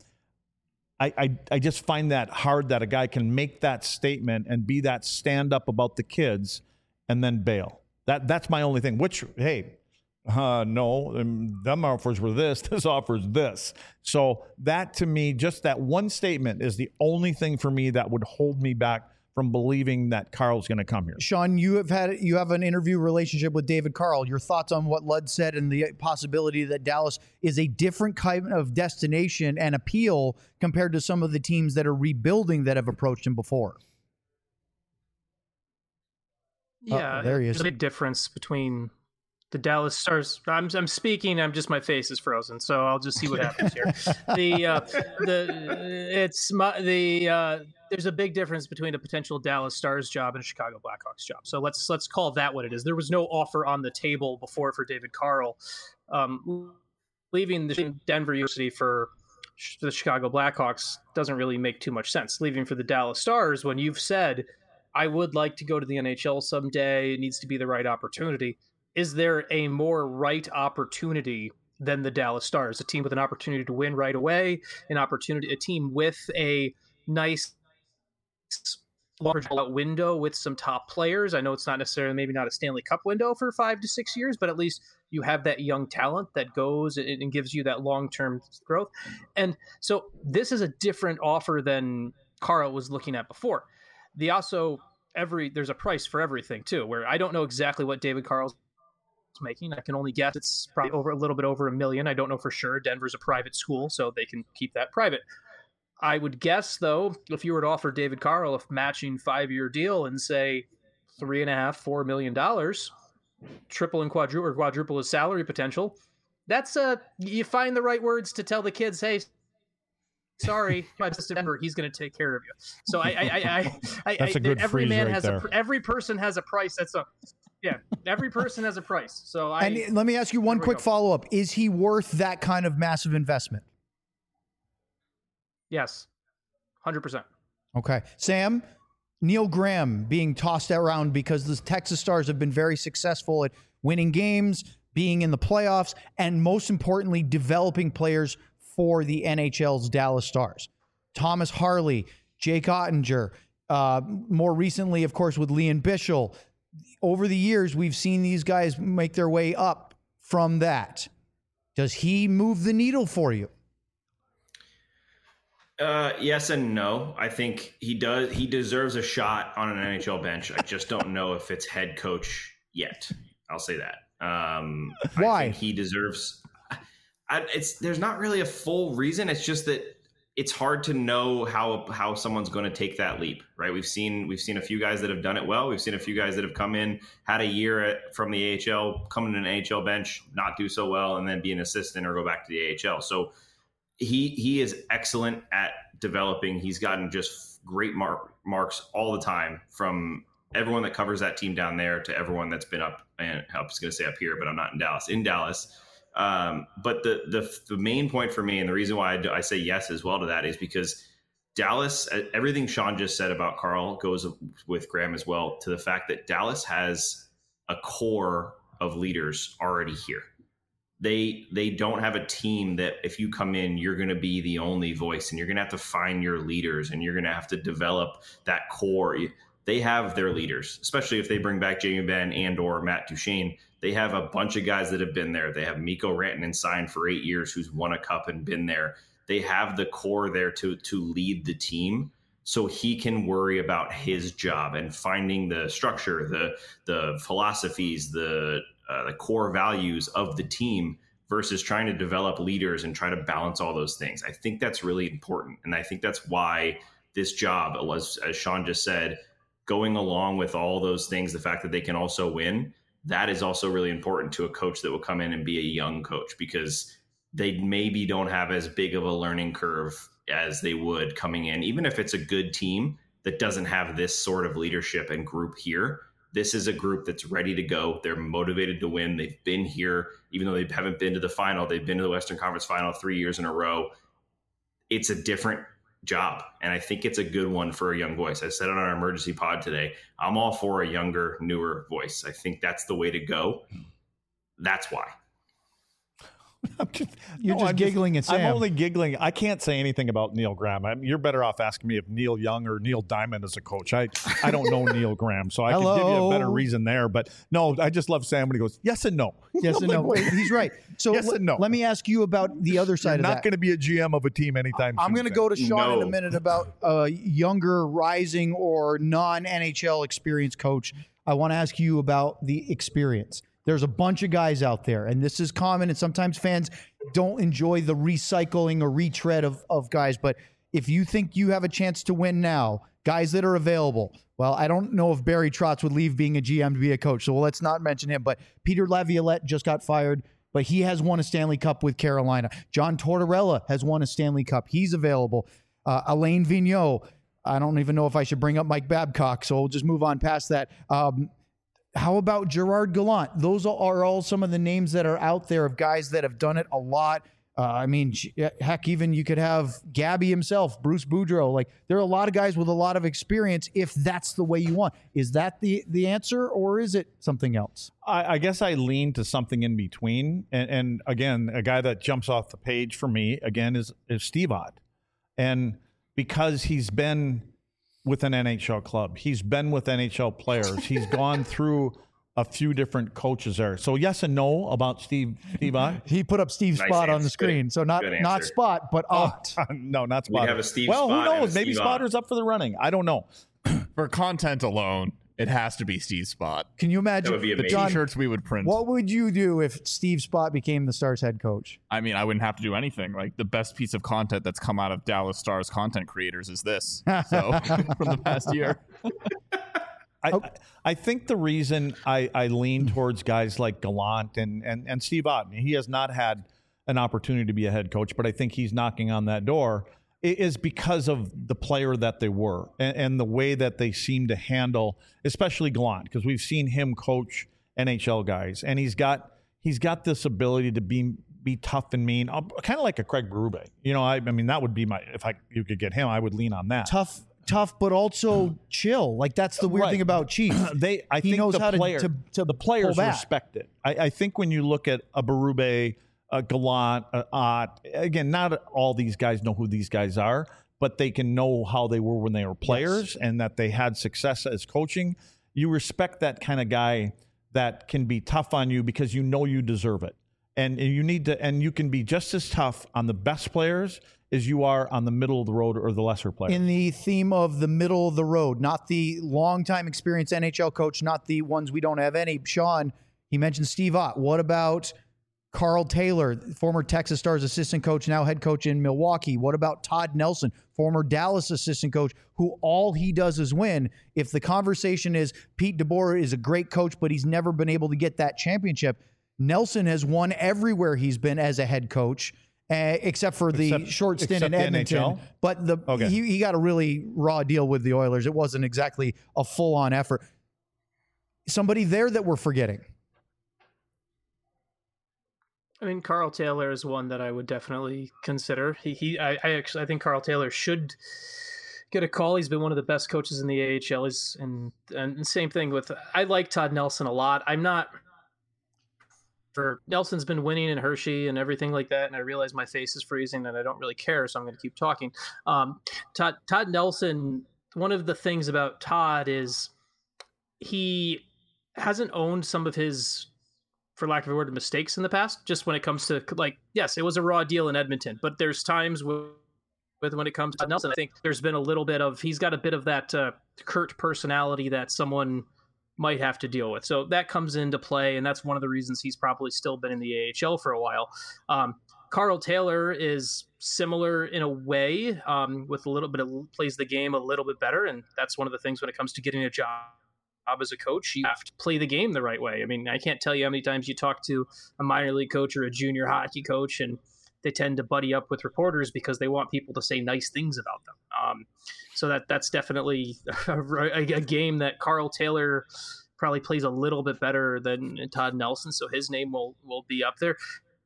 I just find that hard that a guy can make that statement and be that stand up about the kids and then bail. That's my only thing, which, hey, no, them offers were this offers this. So that, to me, just that one statement is the only thing for me that would hold me back from believing that Carl's going to come here. Sean, you have an interview relationship with David Carl. Your thoughts on what Lud said and the possibility that Dallas is a different kind of destination and appeal compared to some of the teams that are rebuilding that have approached him before? Yeah, there he is. There's a big difference between the Dallas Stars. I'm speaking. My face is frozen, so I'll just see what happens here. There's a big difference between a potential Dallas Stars job and a Chicago Blackhawks job. So let's call that what it is. There was no offer on the table before for David Carl. Leaving the Denver University for the Chicago Blackhawks doesn't really make too much sense. Leaving for the Dallas Stars, when you've said, I would like to go to the NHL someday, it needs to be the right opportunity. Is there a more right opportunity than the Dallas Stars? A team with an opportunity to win right away, a team with a nice large window with some top players. I know it's not necessarily, maybe not a Stanley Cup window for 5 to 6 years, but at least you have that young talent that goes and gives you that long-term growth. And so this is a different offer than Carl was looking at before. There's a price for everything too, where I don't know exactly what David Carl's making. I can only guess it's probably a little bit over $1 million. I don't know for sure. Denver's a private school, so they can keep that private. I would guess, though, if you were to offer David Carl a matching 5-year deal and say $3.5-4 million, triple and quadruple his salary potential, that's you find the right words to tell the kids, hey, sorry, Denver, he's going to take care of you. So that's a good every man has there. every person has a price. Every person has a price. So and let me ask you one quick follow-up. Is he worth that kind of massive investment? Yes, 100%. Okay. Sam, Neil Graham being tossed around because the Texas Stars have been very successful at winning games, being in the playoffs, and most importantly, developing players for the NHL's Dallas Stars. Thomas Harley, Jake Ottinger, more recently, of course, with Leon Bischel. Over the years, we've seen these guys make their way up from that. Does he move the needle for you? Yes and no. I think he does. He deserves a shot on an NHL bench. I just don't know if it's head coach yet. I'll say that. Why? I think he deserves. There's not really a full reason. It's just that it's hard to know how someone's going to take that leap, right? We've seen a few guys that have done it well. We've seen a few guys that have come in, had a year from the AHL, come in an AHL bench, not do so well, and then be an assistant or go back to the AHL. So he is excellent at developing. He's gotten just great marks all the time from everyone that covers that team down there to everyone that's been up, and I was going to say up here, but I'm not in Dallas. But the main point for me, and the reason why I say yes as well to that, is because Dallas, everything Sean just said about Carl goes with Graham as well, to the fact that Dallas has a core of leaders already here. They don't have a team that if you come in, you're going to be the only voice, and you're going to have to find your leaders, and you're going to have to develop that core. They have their leaders, especially if they bring back Jamie Benn and or Matt Duchene. They have a bunch of guys that have been there. They have Mikko Rantanen signed for 8 years, who's won a cup and been there. They have the core there to lead the team, so he can worry about his job and finding the structure, the philosophies, the core values of the team, versus trying to develop leaders and try to balance all those things. I think that's really important, and I think that's why this job, as Sean just said, going along with all those things, the fact that they can also win, that is also really important to a coach that will come in and be a young coach, because they maybe don't have as big of a learning curve as they would coming in. Even if it's a good team that doesn't have this sort of leadership and group here, this is a group that's ready to go. They're motivated to win. They've been here, even though they haven't been to the final. They've been to the Western Conference Final 3 years in a row. It's a different job, and I think it's a good one for a young voice. I said it on our emergency pod today. I'm all for a younger, newer voice. I think that's the way to go. That's why. You're just giggling at Sam. I'm only giggling. I can't say anything about Neil Graham. You're better off asking me if Neil Young or Neil Diamond is a coach. I don't know Neil Graham, so I can give you a better reason there. But no, I just love Sam when he goes, yes and no. Yes and no. Wait, he's right. So yes and no. Let me ask you about the other side of that. Not going to be a GM of a team anytime soon. I'm going to go to Sean in a minute about a younger, rising, or non-NHL experienced coach. I want to ask you about the experience. There's a bunch of guys out there, and this is common, and sometimes fans don't enjoy the recycling or retread of guys. But if you think you have a chance to win now, guys that are available, well, I don't know if Barry Trotz would leave being a GM to be a coach, so let's not mention him. But Peter Laviolette just got fired, but he has won a Stanley Cup with Carolina. John Tortorella has won a Stanley Cup. He's available. Alain Vigneault. I don't even know if I should bring up Mike Babcock, so we'll just move on past that. How about Gerard Gallant? Those are all some of the names that are out there of guys that have done it a lot. I mean, heck, even you could have Gabby himself, Bruce Boudreau. Like, there are a lot of guys with a lot of experience if that's the way you want. Is that the answer, or is it something else? I guess I lean to something in between. And again, a guy that jumps off the page for me, again, is Steve Ott. And because he's been with an NHL club, he's been with NHL players, he's gone through a few different coaches there. So yes and no about Steve Ott. He put up Steve's Spot on the screen. So not Spot, but Ott. No, not Spot. We have a Steve Well, Spot. Who knows? Maybe Spotter's up for the running. I don't know. For content alone, it has to be Steve Spot. Can you imagine That would be The amazing. t-shirts we would print. what would you do if Steve Spot became the Stars head coach? I mean, I wouldn't have to do anything. Like, the best piece of content that's come out of Dallas Stars content creators is this. So from the past year. I think the reason I lean towards guys like Gallant and Steve Ott, he has not had an opportunity to be a head coach, but I think he's knocking on that door, is because of the player that they were and the way that they seem to handle, especially Gallant, because we've seen him coach NHL guys, and he's got this ability to be tough and mean, kind of like a Craig Berube. You know, I mean, that would be you could get him, I would lean on that. Tough, but also chill. Like, that's the weird thing about Chief. I think knows the how player, to the players pull back. respect it. I think when you look at a Berube, a Gallant, Ott, again, not all these guys know who these guys are, but they can know how they were when they were players and that they had success as coaching. You respect that kind of guy that can be tough on you because you know you deserve it. And you need to, and you can be just as tough on the best players as you are on the middle of the road or the lesser players. In the theme of the middle of the road, not the long-time experienced NHL coach, not the ones we don't have any. Sean, he mentioned Steve Ott. What about Carl Taylor, former Texas Stars assistant coach, now head coach in Milwaukee? What about Todd Nelson, former Dallas assistant coach, who all he does is win? If the conversation is Pete DeBoer is a great coach, but he's never been able to get that championship, Nelson has won everywhere he's been as a head coach. except for the short stint in Edmonton. NHL? But he got a really raw deal with the Oilers. It wasn't exactly a full-on effort. Somebody there that we're forgetting. I mean, Carl Taylor is one that I would definitely consider. I think Carl Taylor should get a call. He's been one of the best coaches in the AHL. And same thing with, I like Todd Nelson a lot. Nelson's been winning in Hershey and everything like that, and I realize my face is freezing and I don't really care, so I'm going to keep talking. Todd Nelson, one of the things about Todd is he hasn't owned some of his, for lack of a word, mistakes in the past, just when it comes to, like, yes, it was a raw deal in Edmonton, but there's times when it comes to Nelson, I think there's been a little bit of, he's got a bit of that curt personality that someone might have to deal with. So that comes into play, and that's one of the reasons he's probably still been in the AHL for a while. Carl Taylor is similar in a way, with a little bit of, plays the game a little bit better, and that's one of the things when it comes to getting a job as a coach, you have to play the game the right way. I mean, I can't tell you how many times you talk to a minor league coach or a junior hockey coach, and they tend to buddy up with reporters because they want people to say nice things about them. So that's definitely a game that Carl Taylor probably plays a little bit better than Todd Nelson. So his name will be up there.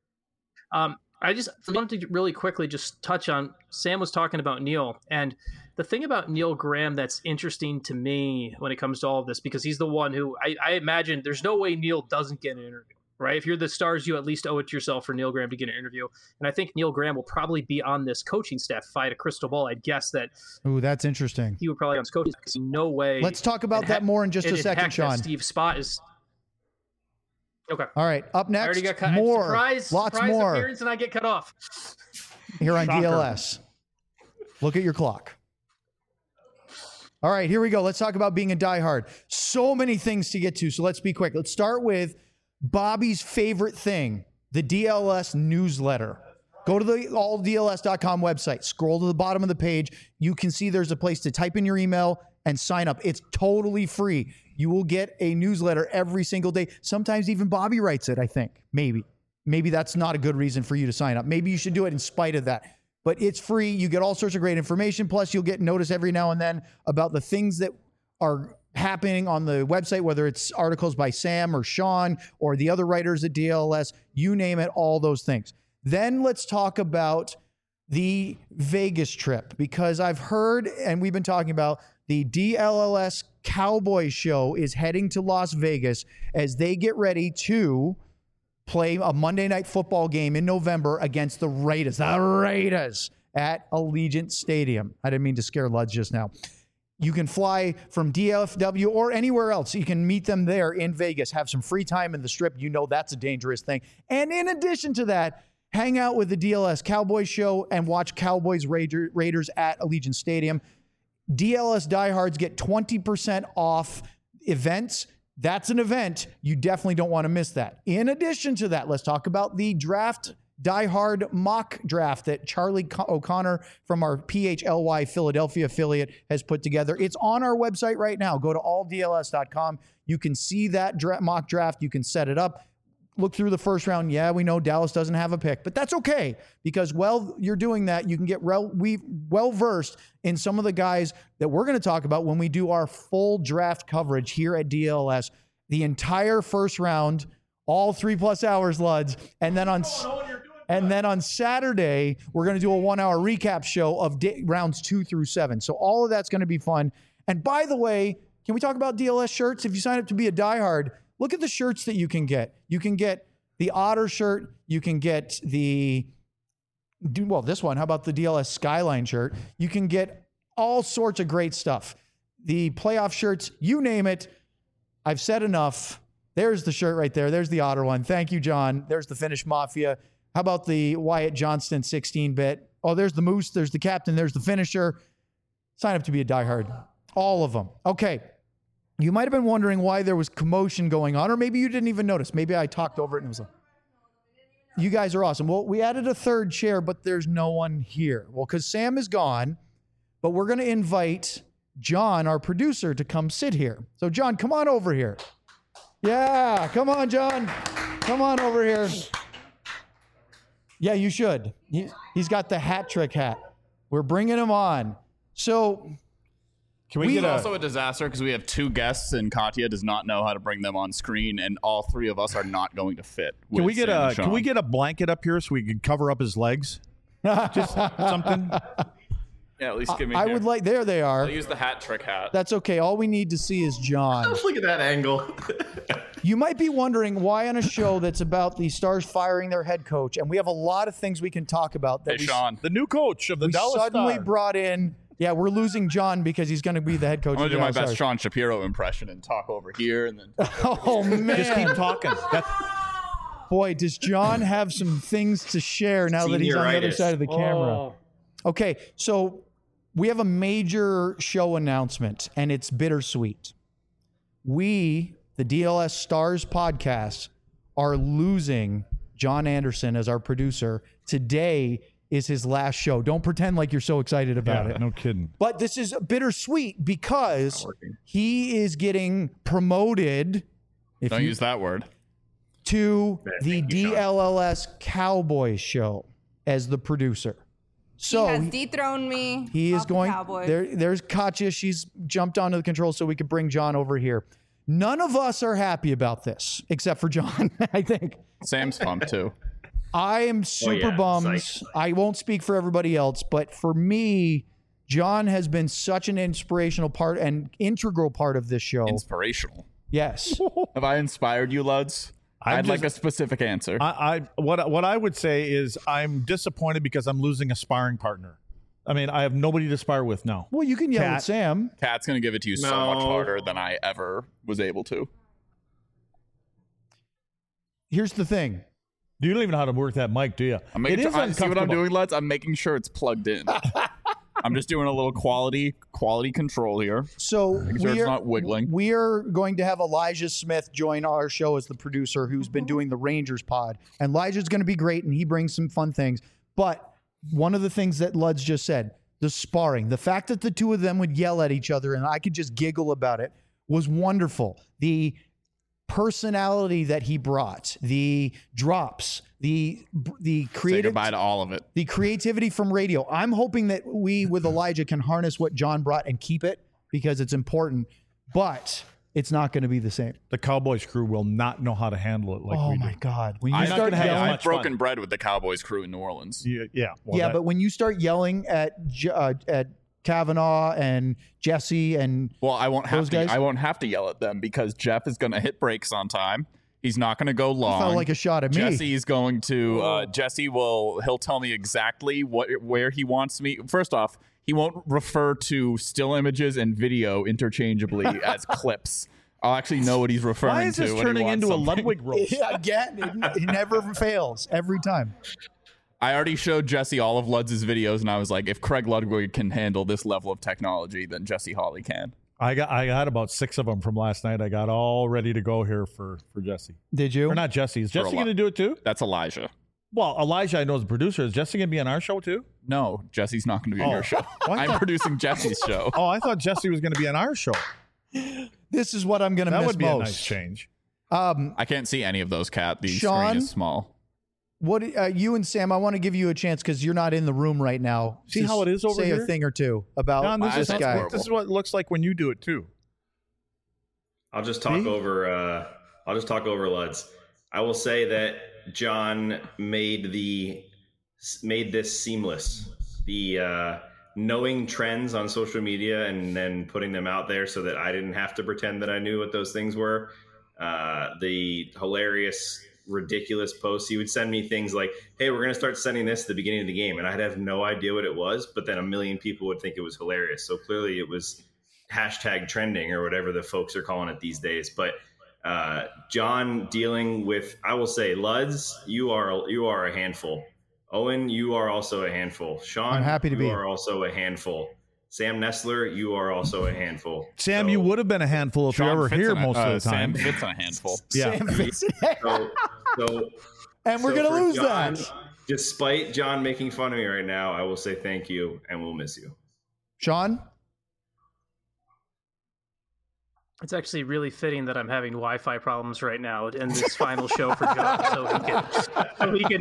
I just wanted to really quickly just touch on, Sam was talking about Neil, and the thing about Neil Graham that's interesting to me when it comes to all of this, because he's the one who I imagine there's no way Neil doesn't get an interview, right? If you're the Stars, you at least owe it to yourself for Neil Graham to get an interview. And I think Neil Graham will probably be on this coaching staff. If I had a crystal ball, I'd guess that. Ooh, that's interesting. He would probably be on this coaching staff, because no way. Let's talk about that more in just a second, Sean. Steve Spott is. Okay. All right. Up next, I already got cut. more. Surprise more. Appearance, and I get cut off. Here on Shocker. DLS. Look at your clock. All right, here we go. Let's talk about being a diehard. So many things to get to, so let's be quick. Let's start with Bobby's favorite thing, the DLS newsletter. Go to the alldls.com website. Scroll to the bottom of the page. You can see there's a place to type in your email and sign up. It's totally free. You will get a newsletter every single day. Sometimes even Bobby writes it, I think. Maybe that's not a good reason for you to sign up. Maybe you should do it in spite of that. But it's free. You get all sorts of great information. Plus, you'll get notice every now and then about the things that are happening on the website, whether it's articles by Sam or Sean or the other writers at DLS, you name it, all those things. Then let's talk about the Vegas trip, because I've heard, and we've been talking about, the DLS Cowboys show is heading to Las Vegas as they get ready to play a Monday Night Football game in November against the Raiders at Allegiant Stadium. I didn't mean to scare Luds just now. You can fly from DFW or anywhere else. You can meet them there in Vegas, have some free time in the Strip. You know that's a dangerous thing. And in addition to that, hang out with the DLS Cowboys show and watch Cowboys Raiders at Allegiant Stadium. DLS diehards get 20% off events. That's an event. You definitely don't want to miss that. In addition to that, let's talk about the draft, diehard mock draft that Charlie O'Connor from our PHLY Philadelphia affiliate has put together. It's on our website right now. Go to alldls.com. You can see that mock draft. You can set it up. Look through the first round. Yeah, we know Dallas doesn't have a pick, but that's okay, because while you're doing that, you can get well-versed in some of the guys that we're going to talk about when we do our full draft coverage here at DLS. The entire first round, all 3+ hours, Luds, and then on Saturday, we're going to do a 1-hour recap show of rounds 2 through 7. So all of that's going to be fun. And by the way, can we talk about DLS shirts? If you sign up to be a diehard, look at the shirts that you can get. You can get the Otter shirt. You can get this one. How about the DLS Skyline shirt? You can get all sorts of great stuff. The playoff shirts, you name it. I've said enough. There's the shirt right there. There's the Otter one. Thank you, John. There's the Finnish Mafia. How about the Wyatt Johnston 16-bit? Oh, there's the Moose. There's the Captain. There's the Finisher. Sign up to be a diehard. All of them. Okay. You might have been wondering why there was commotion going on, or maybe you didn't even notice. Maybe I talked over it and it was like, you guys are awesome. Well, we added a third chair, but there's no one here. Well, because Sam is gone, but we're going to invite John, our producer, to come sit here. So, John, come on over here. Yeah, come on, John. Come on over here. Yeah, you should. He's got the hat trick hat. We're bringing him on. So Can we It's get also a disaster because we have 2 guests and Katya does not know how to bring them on screen, and all 3 of us are not going to fit. Can we with Sam and can we Sean. get a blanket up here so we can cover up his legs? Just something. Yeah, at least give me. I would like. There they are. I'll use the hat trick hat. That's okay. All we need to see is John. Look at that angle. You might be wondering why on a show that's about the Stars firing their head coach, and we have a lot of things we can talk about. That Hey, Sean. The new coach of the we Dallas suddenly Stars. brought in. Yeah, we're losing John because he's going to be the head coach. I'm of gonna the do my Dallas best Stars. Sean Shapiro impression and talk over here, and then Oh man! Just keep talking. Boy, does John have some things to share now that he's on the other Senioritis. side of the camera. Oh. Okay, so we have a major show announcement, and it's bittersweet. We, the DLS Stars podcast, are losing John Anderson as our producer. Today is his last show. Don't pretend like you're so excited about Yeah, it. no kidding. But this is bittersweet because he is getting promoted. If don't you- use that word. to the thank you, Sean. DLLS Cowboys show as the producer. So he has dethroned me. he is off the going Cowboys. there's Katya. She's jumped onto the control so we could bring John over here. None of us are happy about this except for John, I think. Sam's pumped too. I am super yeah, bummed. psyched. I won't speak for everybody else, but for me, John has been such an inspirational part and integral part of this show. Inspirational. Yes. Have I inspired you, Luds? I'd like a just- specific answer. What I would say is I'm disappointed because I'm losing a sparring partner. I mean, I have nobody to spar with now. Well, you can yell Cat. at Sam. Kat's gonna give it to you so much No. harder than I ever was able to. Here's the thing. You don't even know how to work that mic, do you? I'm making It is sure, see what I'm uncomfortable. doing, Luds? I'm making sure it's plugged in. I'm just doing a little quality control here. So sure it's not wiggling. We are going to have Elijah Smith join our show as the producer, who's been doing the Rangers pod. And Elijah's going to be great, and he brings some fun things. But one of the things that Luds just said, the sparring, the fact that the two of them would yell at each other and I could just giggle about it was wonderful. The personality that he brought, the drops, the Say creative, goodbye to all of it. the creativity from radio. I'm hoping that we, with Elijah, can harness what John brought and keep it because it's important, but it's not going to be the same. The Cowboys crew will not know how to handle it like Oh we my do. God. When you I'm not start gonna have yelling, as I've much broken fun. bread with the Cowboys crew in New Orleans. Yeah. Well, but when you start yelling at Kavanaugh and Jesse and Well, I won't have Those to. guys? I won't have to yell at them because Jeff is going to hit brakes on time. He's not going to go long. felt like a shot at me. Jesse's going to. He'll tell me exactly where he wants me. First off, he won't refer to still images and video interchangeably as clips. I'll actually know what he's referring to. why is this when he turning wants into something. a Ludwig roast? Yeah, again, it never fails every time. I already showed Jesse all of Luds' videos, and I was like, if Craig Ludwig can handle this level of technology, then Jesse Hawley can. I got about 6 of them from last night. I got all ready to go here for Jesse. Did you? Or not Jesse. Is For a Jesse lot. going to do it too? That's Elijah. Well, Elijah, I know is the producer. Is Jesse going to be on our show too? No, Jesse's not going to be on Oh. your show. Well, I I'm thought- producing Jesse's show. Oh, I thought Jesse was going to be on our show. This is what I'm going to That miss would be a most. nice change. I can't see any of those, Cat. The Sean? screen is small. What you and Sam? I want to give you a chance because you're not in the room right now. See Just how it is over say here? a thing or two about John, this this is- guy. horrible. This is what it looks like when you do it too. I'll just talk See? over. I'll just talk over Luds. I will say that John made this seamless. The knowing trends on social media and then putting them out there so that I didn't have to pretend that I knew what those things were. The hilarious, ridiculous posts. He would send me things like, "Hey, we're going to start sending this at the beginning of the game," and I'd have no idea what it was. But then a million people would think it was hilarious. So clearly, it was hashtag trending or whatever the folks are calling it these days. But John dealing with, I will say, Luds, you are a handful. Owen, you are also a handful. Sean, I'm happy to you be. are also a handful. Sam Nestler, you are also a handful. Sam, So- you would have been a handful if Sean you were fits here in a- most of the time. Sam fits in a handful. Yeah. Sam Vincent. So, And we're so going to for lose John, that. Despite John making fun of me right now, I will say thank you and we'll miss you. Sean? It's actually really fitting that I'm having Wi-Fi problems right now in this final show for John, so he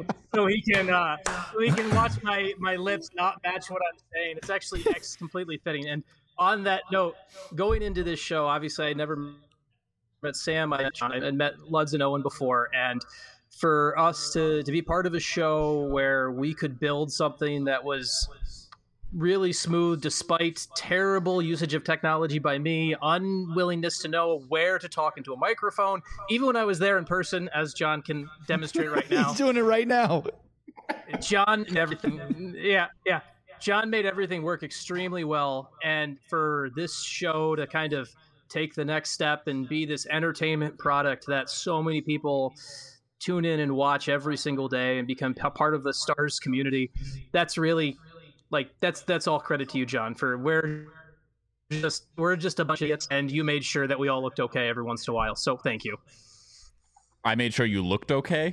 can watch my lips not match what I'm saying. It's actually completely fitting. And on that note, going into this show, obviously I never met Sam, I met Luds and Owen before, and for us to be part of a show where we could build something that was really smooth despite terrible usage of technology by me, unwillingness to know where to talk into a microphone, even when I was there in person, as John can demonstrate right now. He's doing it right now. John and everything. Yeah. John made everything work extremely well. And for this show to kind of take the next step and be this entertainment product that so many people tune in and watch every single day and become part of the Stars community, that's really... that's all credit to you, John, for we're just a bunch of idiots, and you made sure that we all looked okay every once in a while. So thank you. I made sure you looked okay.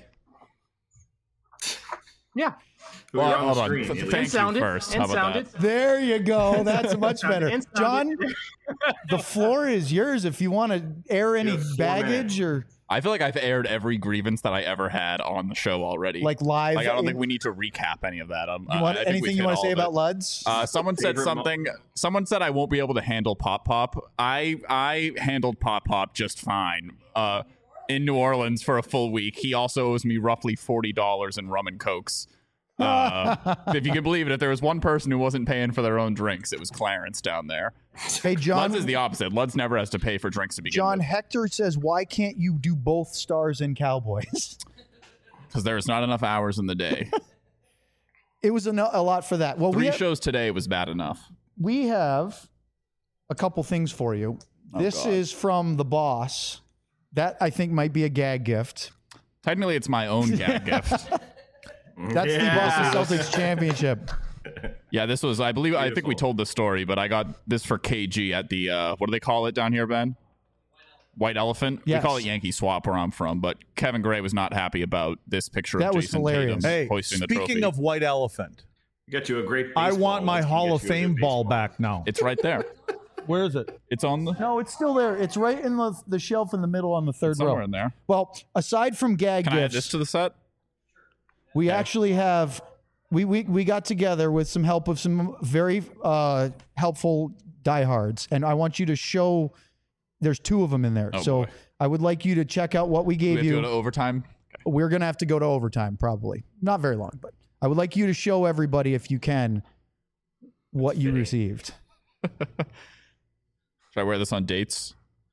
Yeah. Well, hold on. Thank you first. How about that? There you go. That's much better. John, the floor is yours if you want to air any baggage or... I feel like I've aired every grievance that I ever had on the show already. Like live? Like, I don't think we need to recap any of that. Anything you want to say about Luds? Someone said something. Someone said I won't be able to handle Pop Pop. I handled Pop Pop just fine. In New Orleans for a full week. He also owes me roughly $40 in rum and cokes. If you can believe it, if there was one person who wasn't paying for their own drinks, it was Clarence down there. Hey, John. Luds is the opposite. Luds never has to pay for drinks to begin John, with. Hector says, why can't you do both Stars and Cowboys? Because there's not enough hours in the day. It was a lot for that. Well, 3 shows today was bad enough. We have a couple things for you. This is from the boss. That, I think, might be a gag gift. Technically, it's my own gag gift. That's the Boston Celtics championship. Yeah, this was, I think we told the story, but I got this for KG at the, what do they call it down here, Ben? White Elephant? Yes. We call it Yankee Swap where I'm from, but Kevin Gray was not happy about this picture That of was Jason hilarious. Tatum Hey, hoisting the trophy. speaking of White Elephant, Got you a great I baseball. want my Let's Hall get of you a good Fame ball baseball. back now. It's right there. Where is it? It's on the No, it's still there. It's right in the shelf in the middle on the third somewhere row. in there. Well, aside from gag Can I add gifts, this to the set? we actually have we got together with some help of some very helpful diehards, and I want you to show. There's 2 of them in there, Oh, so boy. I would like you to check out what we Do gave we have to you. go to overtime? We're gonna have to go to overtime, probably not very long, but I would like you to show everybody, if you can, what you received. Should I wear this on dates?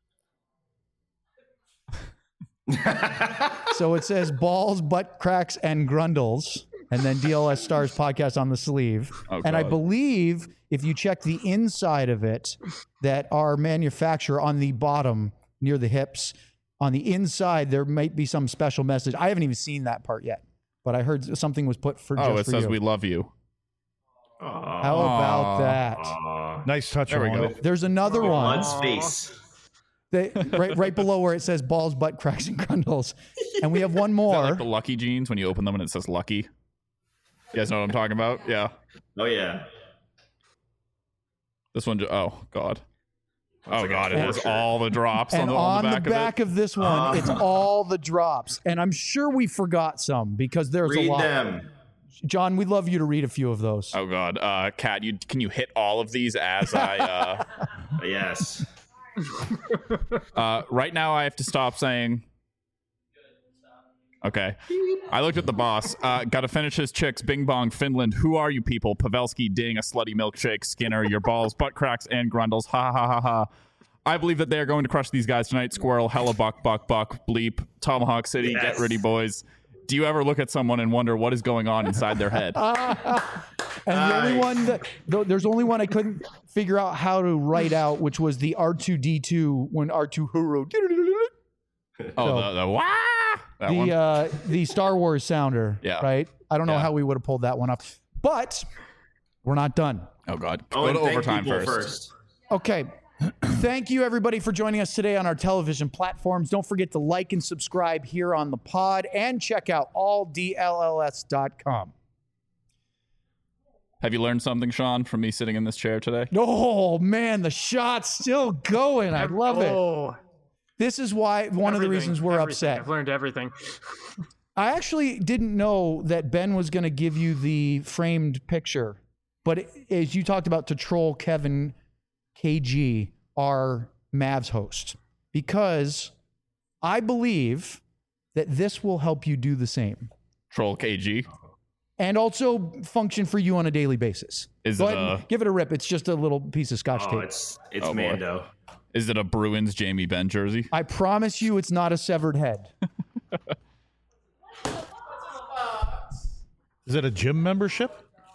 So it says balls, butt cracks, and grundles, and then DLS Stars podcast on the sleeve. Oh, and I God. believe if you check the inside of it, that our manufacturer on the bottom near the hips, on the inside, there might be some special message. I haven't even seen that part yet, but I heard something was put for Oh, just it for says you. we love you. How about that? Nice touch. There we on go. it. There's another one. Blood's face. Right below where it says balls, butt cracks, and grundles. And we have one Is that more. like the Lucky jeans when you open them and it says Lucky? You guys know what I'm talking about? Yeah. Oh yeah. This one, oh, God. That's Oh, like a God, it has torture. all the drops And on the back of it. of this one, it's all the drops. And I'm sure we forgot some because there's a Read lot. them. John, we'd love you to read a few of those. Oh, God. Kat, can you hit all of these as I... Yes. right now, I have to stop saying... Okay. I looked at the boss. Got to finish his chicks. Bing Bong, Finland. Who are you people? Pavelski, Ding, a slutty milkshake. Skinner, your balls, butt cracks, and grundles. Ha ha ha ha. I believe that they are going to crush these guys tonight. Squirrel, hella buck, bleep, Tomahawk City, Yes. Get ready, boys. Do you ever look at someone and wonder what is going on inside their head? And the only one that there's only one I couldn't figure out how to write out, which was the R2D2 when R2 Huru. Oh, the wah! That one? The Star Wars sounder. Yeah. Right? I don't know Yeah. how we would have pulled that one up. But we're not done. Oh, God. Oh, Go and to thank overtime people first. Okay. Thank you, everybody, for joining us today on our television platforms. Don't forget to like and subscribe here on the pod and check out alldlls.com. Have you learned something, Sean, from me sitting in this chair today? Oh, man, the shot's still going. I love it. Oh, This is why one of the reasons we're everything. upset. I've learned everything. I actually didn't know that Ben was going to give you the framed picture. But as you talked about to troll Kevin KG, our Mavs host, because I believe that this will help you do the same. Troll KG. And also function for you on a daily basis. Is Go it ahead and give it a rip. It's just a little piece of Scotch tape. It's Oh, boy. Mando. Is it a Bruins Jamie Benn jersey? I promise you it's not a severed head. Is it a gym membership?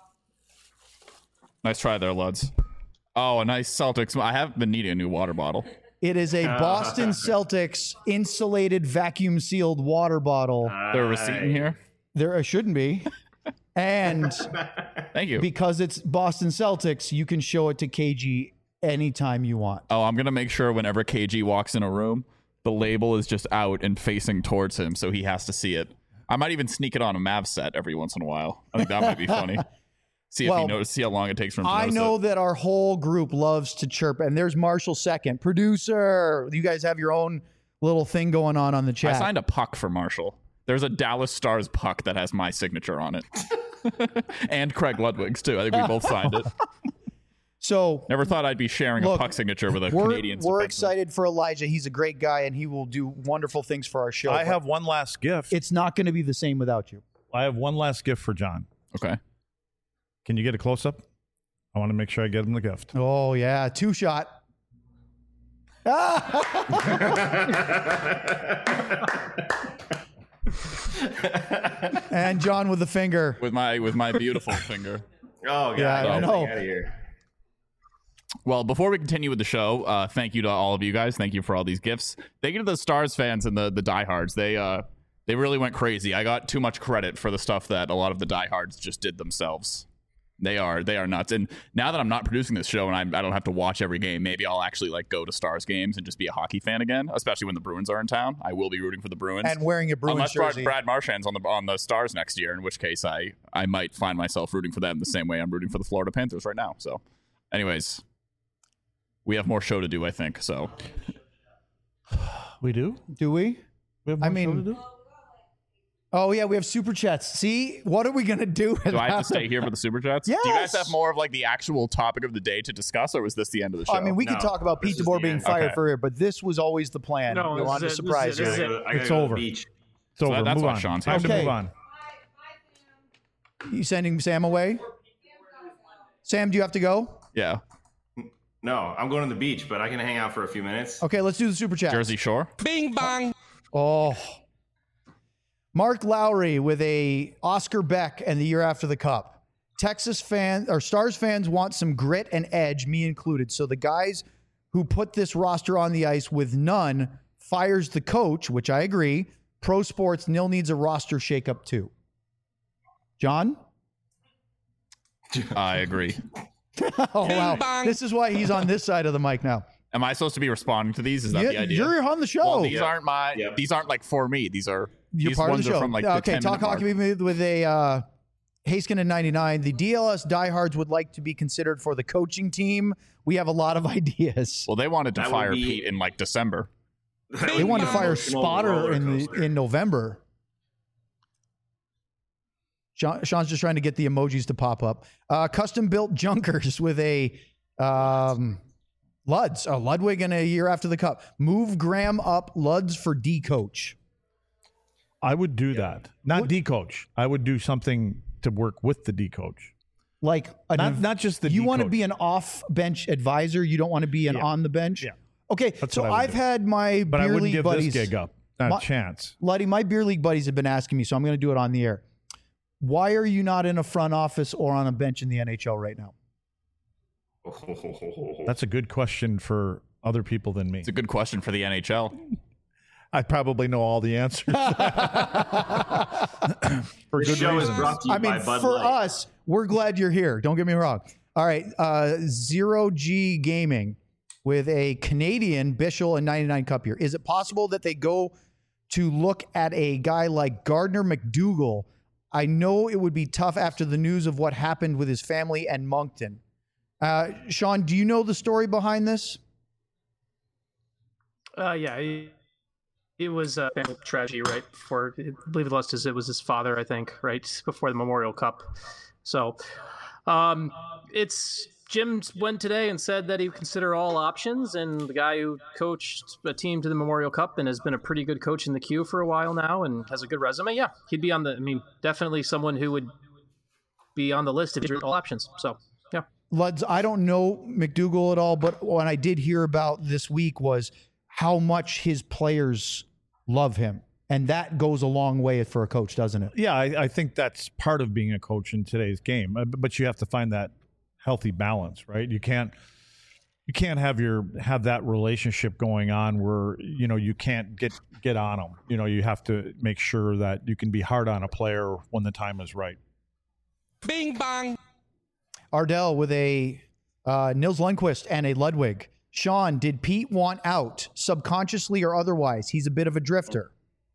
Nice try there, Luds. Oh, a nice Celtics. I have been needing a new water bottle. It is a Boston Celtics insulated vacuum sealed water bottle. There a receipt in here? There shouldn't be. And Thank you. because it's Boston Celtics, you can show it to KG anytime you want. Oh, I'm going to make sure whenever KG walks in a room, the label is just out and facing towards him, so he has to see it. I might even sneak it on a Mavs set every once in a while. I think that might be funny. See if Well, he knows. See how long it takes for him to I notice know it. that our whole group loves to chirp, and there's Marshall second. Producer, you guys have your own little thing going on the chat. I signed a puck for Marshall. There's a Dallas Stars puck that has my signature on it. And Craig Ludwig's, too. I think we both signed it. So Never thought I'd be sharing Look, a puck signature with a we're Canadian. we're defenseman. excited for Elijah. He's a great guy, and he will do wonderful things for our show. I but have one last gift. It's not going to be the same without you. I have one last gift for John. Okay. Can you get a close up? I want to make sure I get him the gift. Oh yeah, 2-shot. And John with the finger. With my beautiful finger. Oh, God. Yeah, I know. Get out of here. Well, before we continue with the show, thank you to all of you guys. Thank you for all these gifts. Thank you to the Stars fans and the diehards. They really went crazy. I got too much credit for the stuff that a lot of the diehards just did themselves. They are nuts. And now that I'm not producing this show and I don't have to watch every game, maybe I'll actually go to Stars games and just be a hockey fan again, especially when the Bruins are in town. I will be rooting for the Bruins. And wearing a Bruins Unless jersey. Brad Marchand's on the Stars next year, in which case I might find myself rooting for them the same way I'm rooting for the Florida Panthers right now. So, anyways, we have more show to do, I think. So, We do? Do we? We have I more mean- show to do? Oh yeah, we have super chats. See, what are we gonna do? do I have to stay here for the super chats? Yes. Do you guys have more of the actual topic of the day to discuss, or was this the end of the show? I mean, we could No, talk about this Pete is DeBoer the being end. fired Okay. for it, but this was always the plan. No, we this wanted to is it. surprise This you. is it. I gotta It's go to the over. beach. It's over. that's Move what on. Sean's Time to here. move Okay. on. You sending Sam away? Sam, do you have to go? yeah. No, I'm going to the beach, but I can hang out for a few minutes. Okay, let's do the super chat. Jersey Shore. Oh. Mark Lowry with a Oscar Beck and the year after the cup. Texas fans or Stars fans want some grit and edge, me included. So the guys who put this roster on the ice with none fires the coach, which I agree. Pro Sports Nil needs a roster shakeup too. John? I agree. Oh wow. This is why he's on this side of the mic now. Am I supposed to be responding to these? Is that the idea? You're on the show. Well, these Yeah. aren't my. Yep. These aren't for me. These are. You're these part of ones the show. are from the Okay, 10-minute talk mark. hockey with a Haskin in 99. The DLS diehards would like to be considered for the coaching team. We have a lot of ideas. Well, they wanted to That would fire be- Pete in December. They wanted to fire Spotter in November. Sean's just trying to get the emojis to pop up. Custom built junkers with a Ludwig and a year after the cup. Move Graham up Luds for D coach. I would do that. Not D coach. I would do something to work with the D coach. Like Not just the you D want to coach. be an off bench advisor. You don't want to be an Yeah. on the bench. Yeah. Okay, That's so what I would I've do. had my But I beer wouldn't league give buddies. this gig up. Not My- a chance. Luddy, my beer league buddies have been asking me, so I'm going to do it on the air. Why are you not in a front office or on a bench in the NHL right now? That's a good question for other people than me. It's a good question for the NHL. I probably know all the answers. For This good show is reasons. brought to you I mean, by Bud for Light. us, we're glad you're here. Don't get me wrong. All right, Zero G Gaming with a Canadian Bishel and 99 Cup here. Is it possible that they go to look at a guy like Gardner McDougall I know it would be tough after the news of what happened with his family and Moncton. Sean, do you know the story behind this? Yeah, it was a tragedy right before, I believe it was his father, I think, right before the Memorial Cup. So Jim went today and said that he would consider all options, and the guy who coached a team to the Memorial Cup and has been a pretty good coach in the queue for a while now and has a good resume, yeah, he'd be definitely someone who would be on the list if all options. So, yeah. Luds, I don't know McDougall at all, but what I did hear about this week was how much his players love him. And that goes a long way for a coach, doesn't it? Yeah, I think that's part of being a coach in today's game. But you have to find that healthy balance, right? You can't have that relationship going on where, you can't get on them. You have to make sure that you can be hard on a player when the time is right. Bing bang. Ardell with a Nils Lundqvist and a Ludwig. Sean, did Pete want out, subconsciously or otherwise? He's a bit of a drifter.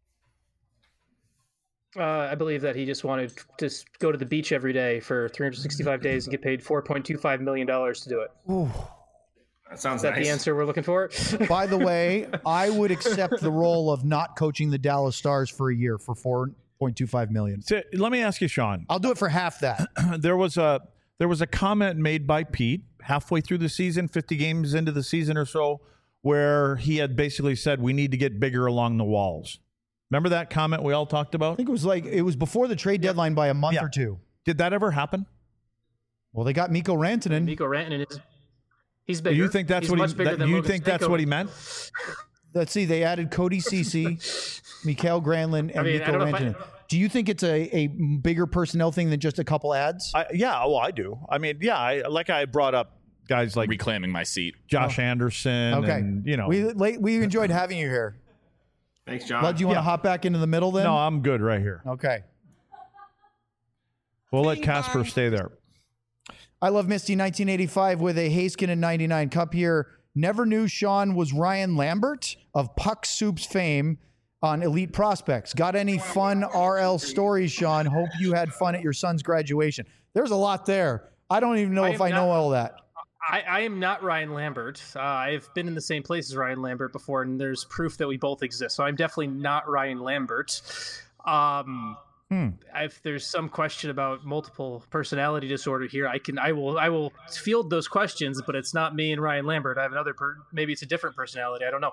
I believe that he just wanted to go to the beach every day for 365 days and get paid $4.25 million to do it. Ooh. That sounds Is that nice. the answer we're looking for? By the way, I would accept the role of not coaching the Dallas Stars for a year for $4.25 million. So, let me ask you, Sean. I'll do it for half that. There was a comment made by Pete halfway through the season, 50 games into the season or so, where he had basically said we need to get bigger along the walls. Remember that comment we all talked about? I think it was before the trade deadline by a month or two. Did that ever happen? Well, they got Mikko Rantanen. Mikko Rantanen he's bigger. You think that's what he meant? Let's see. They added Cody Ceci, Mikael Granlund, and Mikko Rantanen. Do you think it's a bigger personnel thing than just a couple ads? I do. I brought up guys like reclaiming my seat, Josh Anderson. Okay. And, we enjoyed having you here. Thanks, John. Bud, do you want to hop back into the middle then? No, I'm good right here. Okay. We'll let Casper stay there. I Love Misty 1985 with a Heiskanen 99 Cup here. Never knew Sean was Ryan Lambert of Puck Soup's fame on Elite Prospects. Got any fun RL stories, Sean? Hope you had fun at your son's graduation. There's a lot there. I don't even know if I know all that. I am not Ryan Lambert. I've been in the same place as Ryan Lambert before, and there's proof that we both exist. So I'm definitely not Ryan Lambert. If there's some question about multiple personality disorder here, I will field those questions, but it's not me and Ryan Lambert. I have another maybe it's a different personality. I don't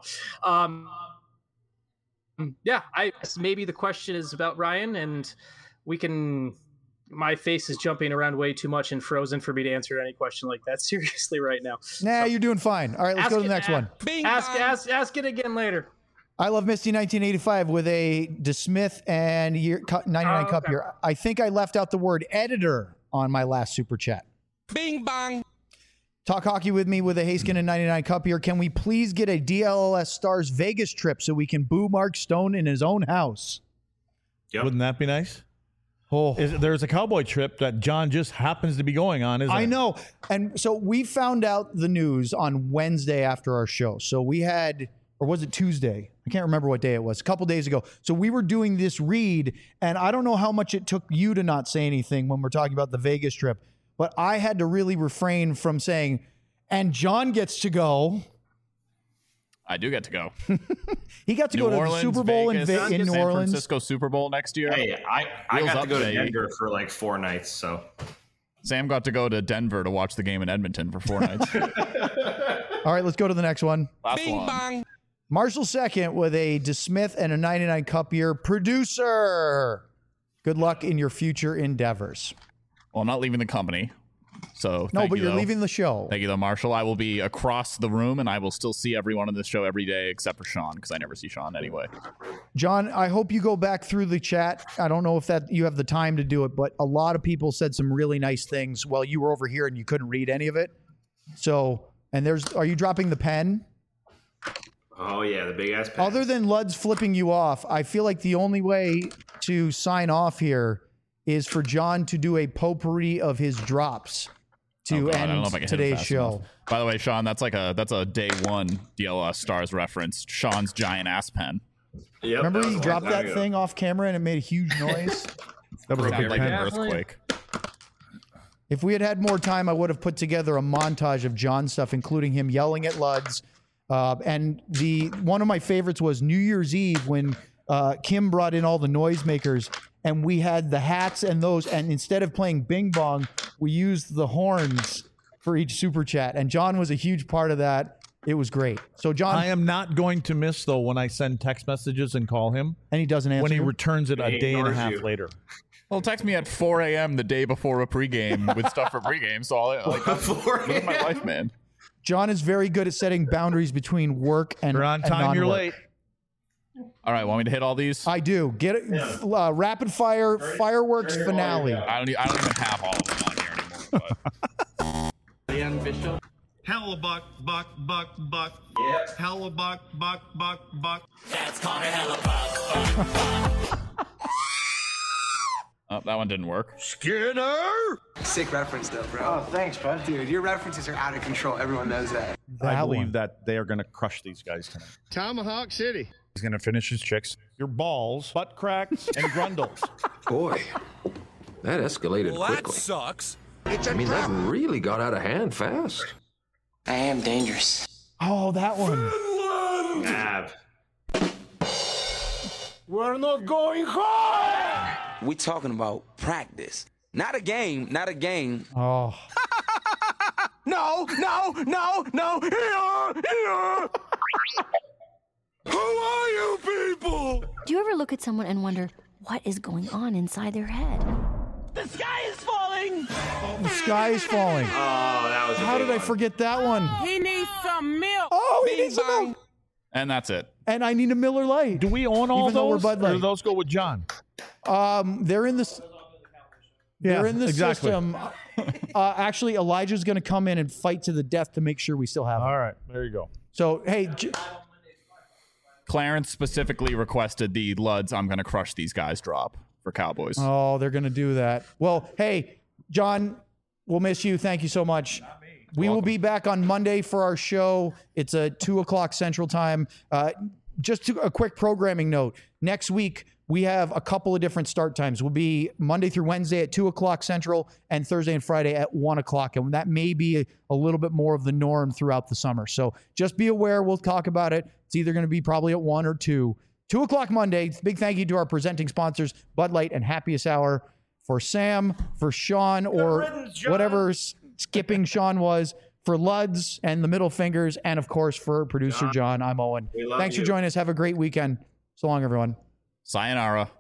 know. Maybe the question is about Ryan, and we can. My face is jumping around way too much and frozen for me to answer any question like that seriously right now. Nah, you're doing fine. All right, let's go to the next one. Ask it again later. I Love Misty 1985 with a DeSmith and 99 Cup here. I think I left out the word editor on my last super chat. Bing bang. Talk hockey with me with a Heiskanen 99 Cup here. Can we please get a DLLS Stars Vegas trip so we can boo Mark Stone in his own house? Yep. Wouldn't that be nice? Oh, there's a cowboy trip that John just happens to be going on, isn't it? I know. And so we found out the news on Wednesday after our show. So we had, or was it Tuesday? I can't remember what day it was. A couple days ago. So we were doing this read, and I don't know how much it took you to not say anything when we're talking about the Vegas trip, but I had to really refrain from saying, and John gets to go. I do get to go. He got to go to the Super Bowl in New San Orleans. Francisco Super Bowl next year. Hey, I got to go to baby. Denver for like 4 nights. So Sam got to go to Denver to watch the game in Edmonton for 4 nights. All right, let's go to the next one. Last Bing one. bang. Marshall second with a DeSmith and a 99 Cup year. Producer, good luck in your future endeavors. Well, I'm not leaving the company. So No, thank but you, you're though. leaving the show. Thank you, though, Marshall. I will be across the room, and I will still see everyone on this show every day except for Sean, because I never see Sean anyway. John, I hope you go back through the chat. I don't know if that you have the time to do it, but a lot of people said some really nice things while you were over here and you couldn't read any of it. So, and are you dropping the pen? oh yeah, the big ass pen. Other than Luds flipping you off, I feel like the only way to sign off here is for John to do a potpourri of his drops to I don't know end if I can hit it today's fast show. enough. By the way, Sean, that's a day one DLS Stars reference. Sean's giant ass pen. Yep, Remember was he a dropped long time that ago. thing off camera and it made a huge noise? That was a Sounded good like an pen. earthquake. If we had had more time, I would have put together a montage of John stuff, including him yelling at Luds. And one of my favorites was New Year's Eve when Kim brought in all the noisemakers, and we had the hats and those. And instead of playing Bing Bong, we used the horns for each super chat. And John was a huge part of that. It was great. So John, I am not going to miss though when I send text messages and call him and he doesn't answer. when he you? returns it a He day and a ignores half you. later. Well, text me at 4 a.m. the day before a pregame with stuff for pregame. So I'll like that's living my life, man. John is very good at setting boundaries between work and You're on and time. You're non-work. late. All right, want me to hit all these? I do. Get it. Rapid fire fireworks finale. I don't even have all of them on here anymore. But. Hellebuck, buck, buck, buck. Yeah. Hellebuck, buck, buck, buck. Oh, that one didn't work. Sick reference, though, bro. Oh, thanks, bud. Dude, your references are out of control. Everyone knows that. I That believe one. that they are going to crush these guys tonight. Tomahawk City. He's going to finish his chicks. Your balls, butt cracks, and grundles. Boy, that escalated quickly. sucks. I mean, that really got out of hand fast. I am dangerous. Oh, that one. Nav. We talking about practice. Not a game, not a game. Oh, No. Who are you people? Do you ever look at someone and wonder what is going on inside their head? The sky is falling. the sky is falling. Oh, that was a How big did I one. forget that one? He needs some milk. Oh, he needs some milk. And that's it. And I need a Miller Lite. Do we own all Even though we're those? Bud Or Light. do those go with John? They're in the. They're in the exactly. system. Actually, Elijah's going to come in and fight to the death to make sure we still have them. All right, there you go. So, hey, Clarence specifically requested the Luds I'm going to crush these guys drop for Cowboys. oh, they're going to do that. Well, hey, John, we'll miss you. Thank you so much. We will be back on Monday for our show. It's a 2:00 Central Time. Just a quick programming note. Next week, we have a couple of different start times. We'll be Monday through Wednesday at 2:00 Central and Thursday and Friday at 1:00. And that may be a little bit more of the norm throughout the summer. So just be aware. We'll talk about it. It's either going to be probably at 1 or 2. 2:00 Monday. Big thank you to our presenting sponsors, Bud Light and Happiest Hour. For Sam, for Sean, or whatever skipping Sean was, for Luds and the middle fingers, and of course for producer John. I'm Owen. We love Thanks for you. joining us. Have a great weekend. So long, everyone. Sayonara.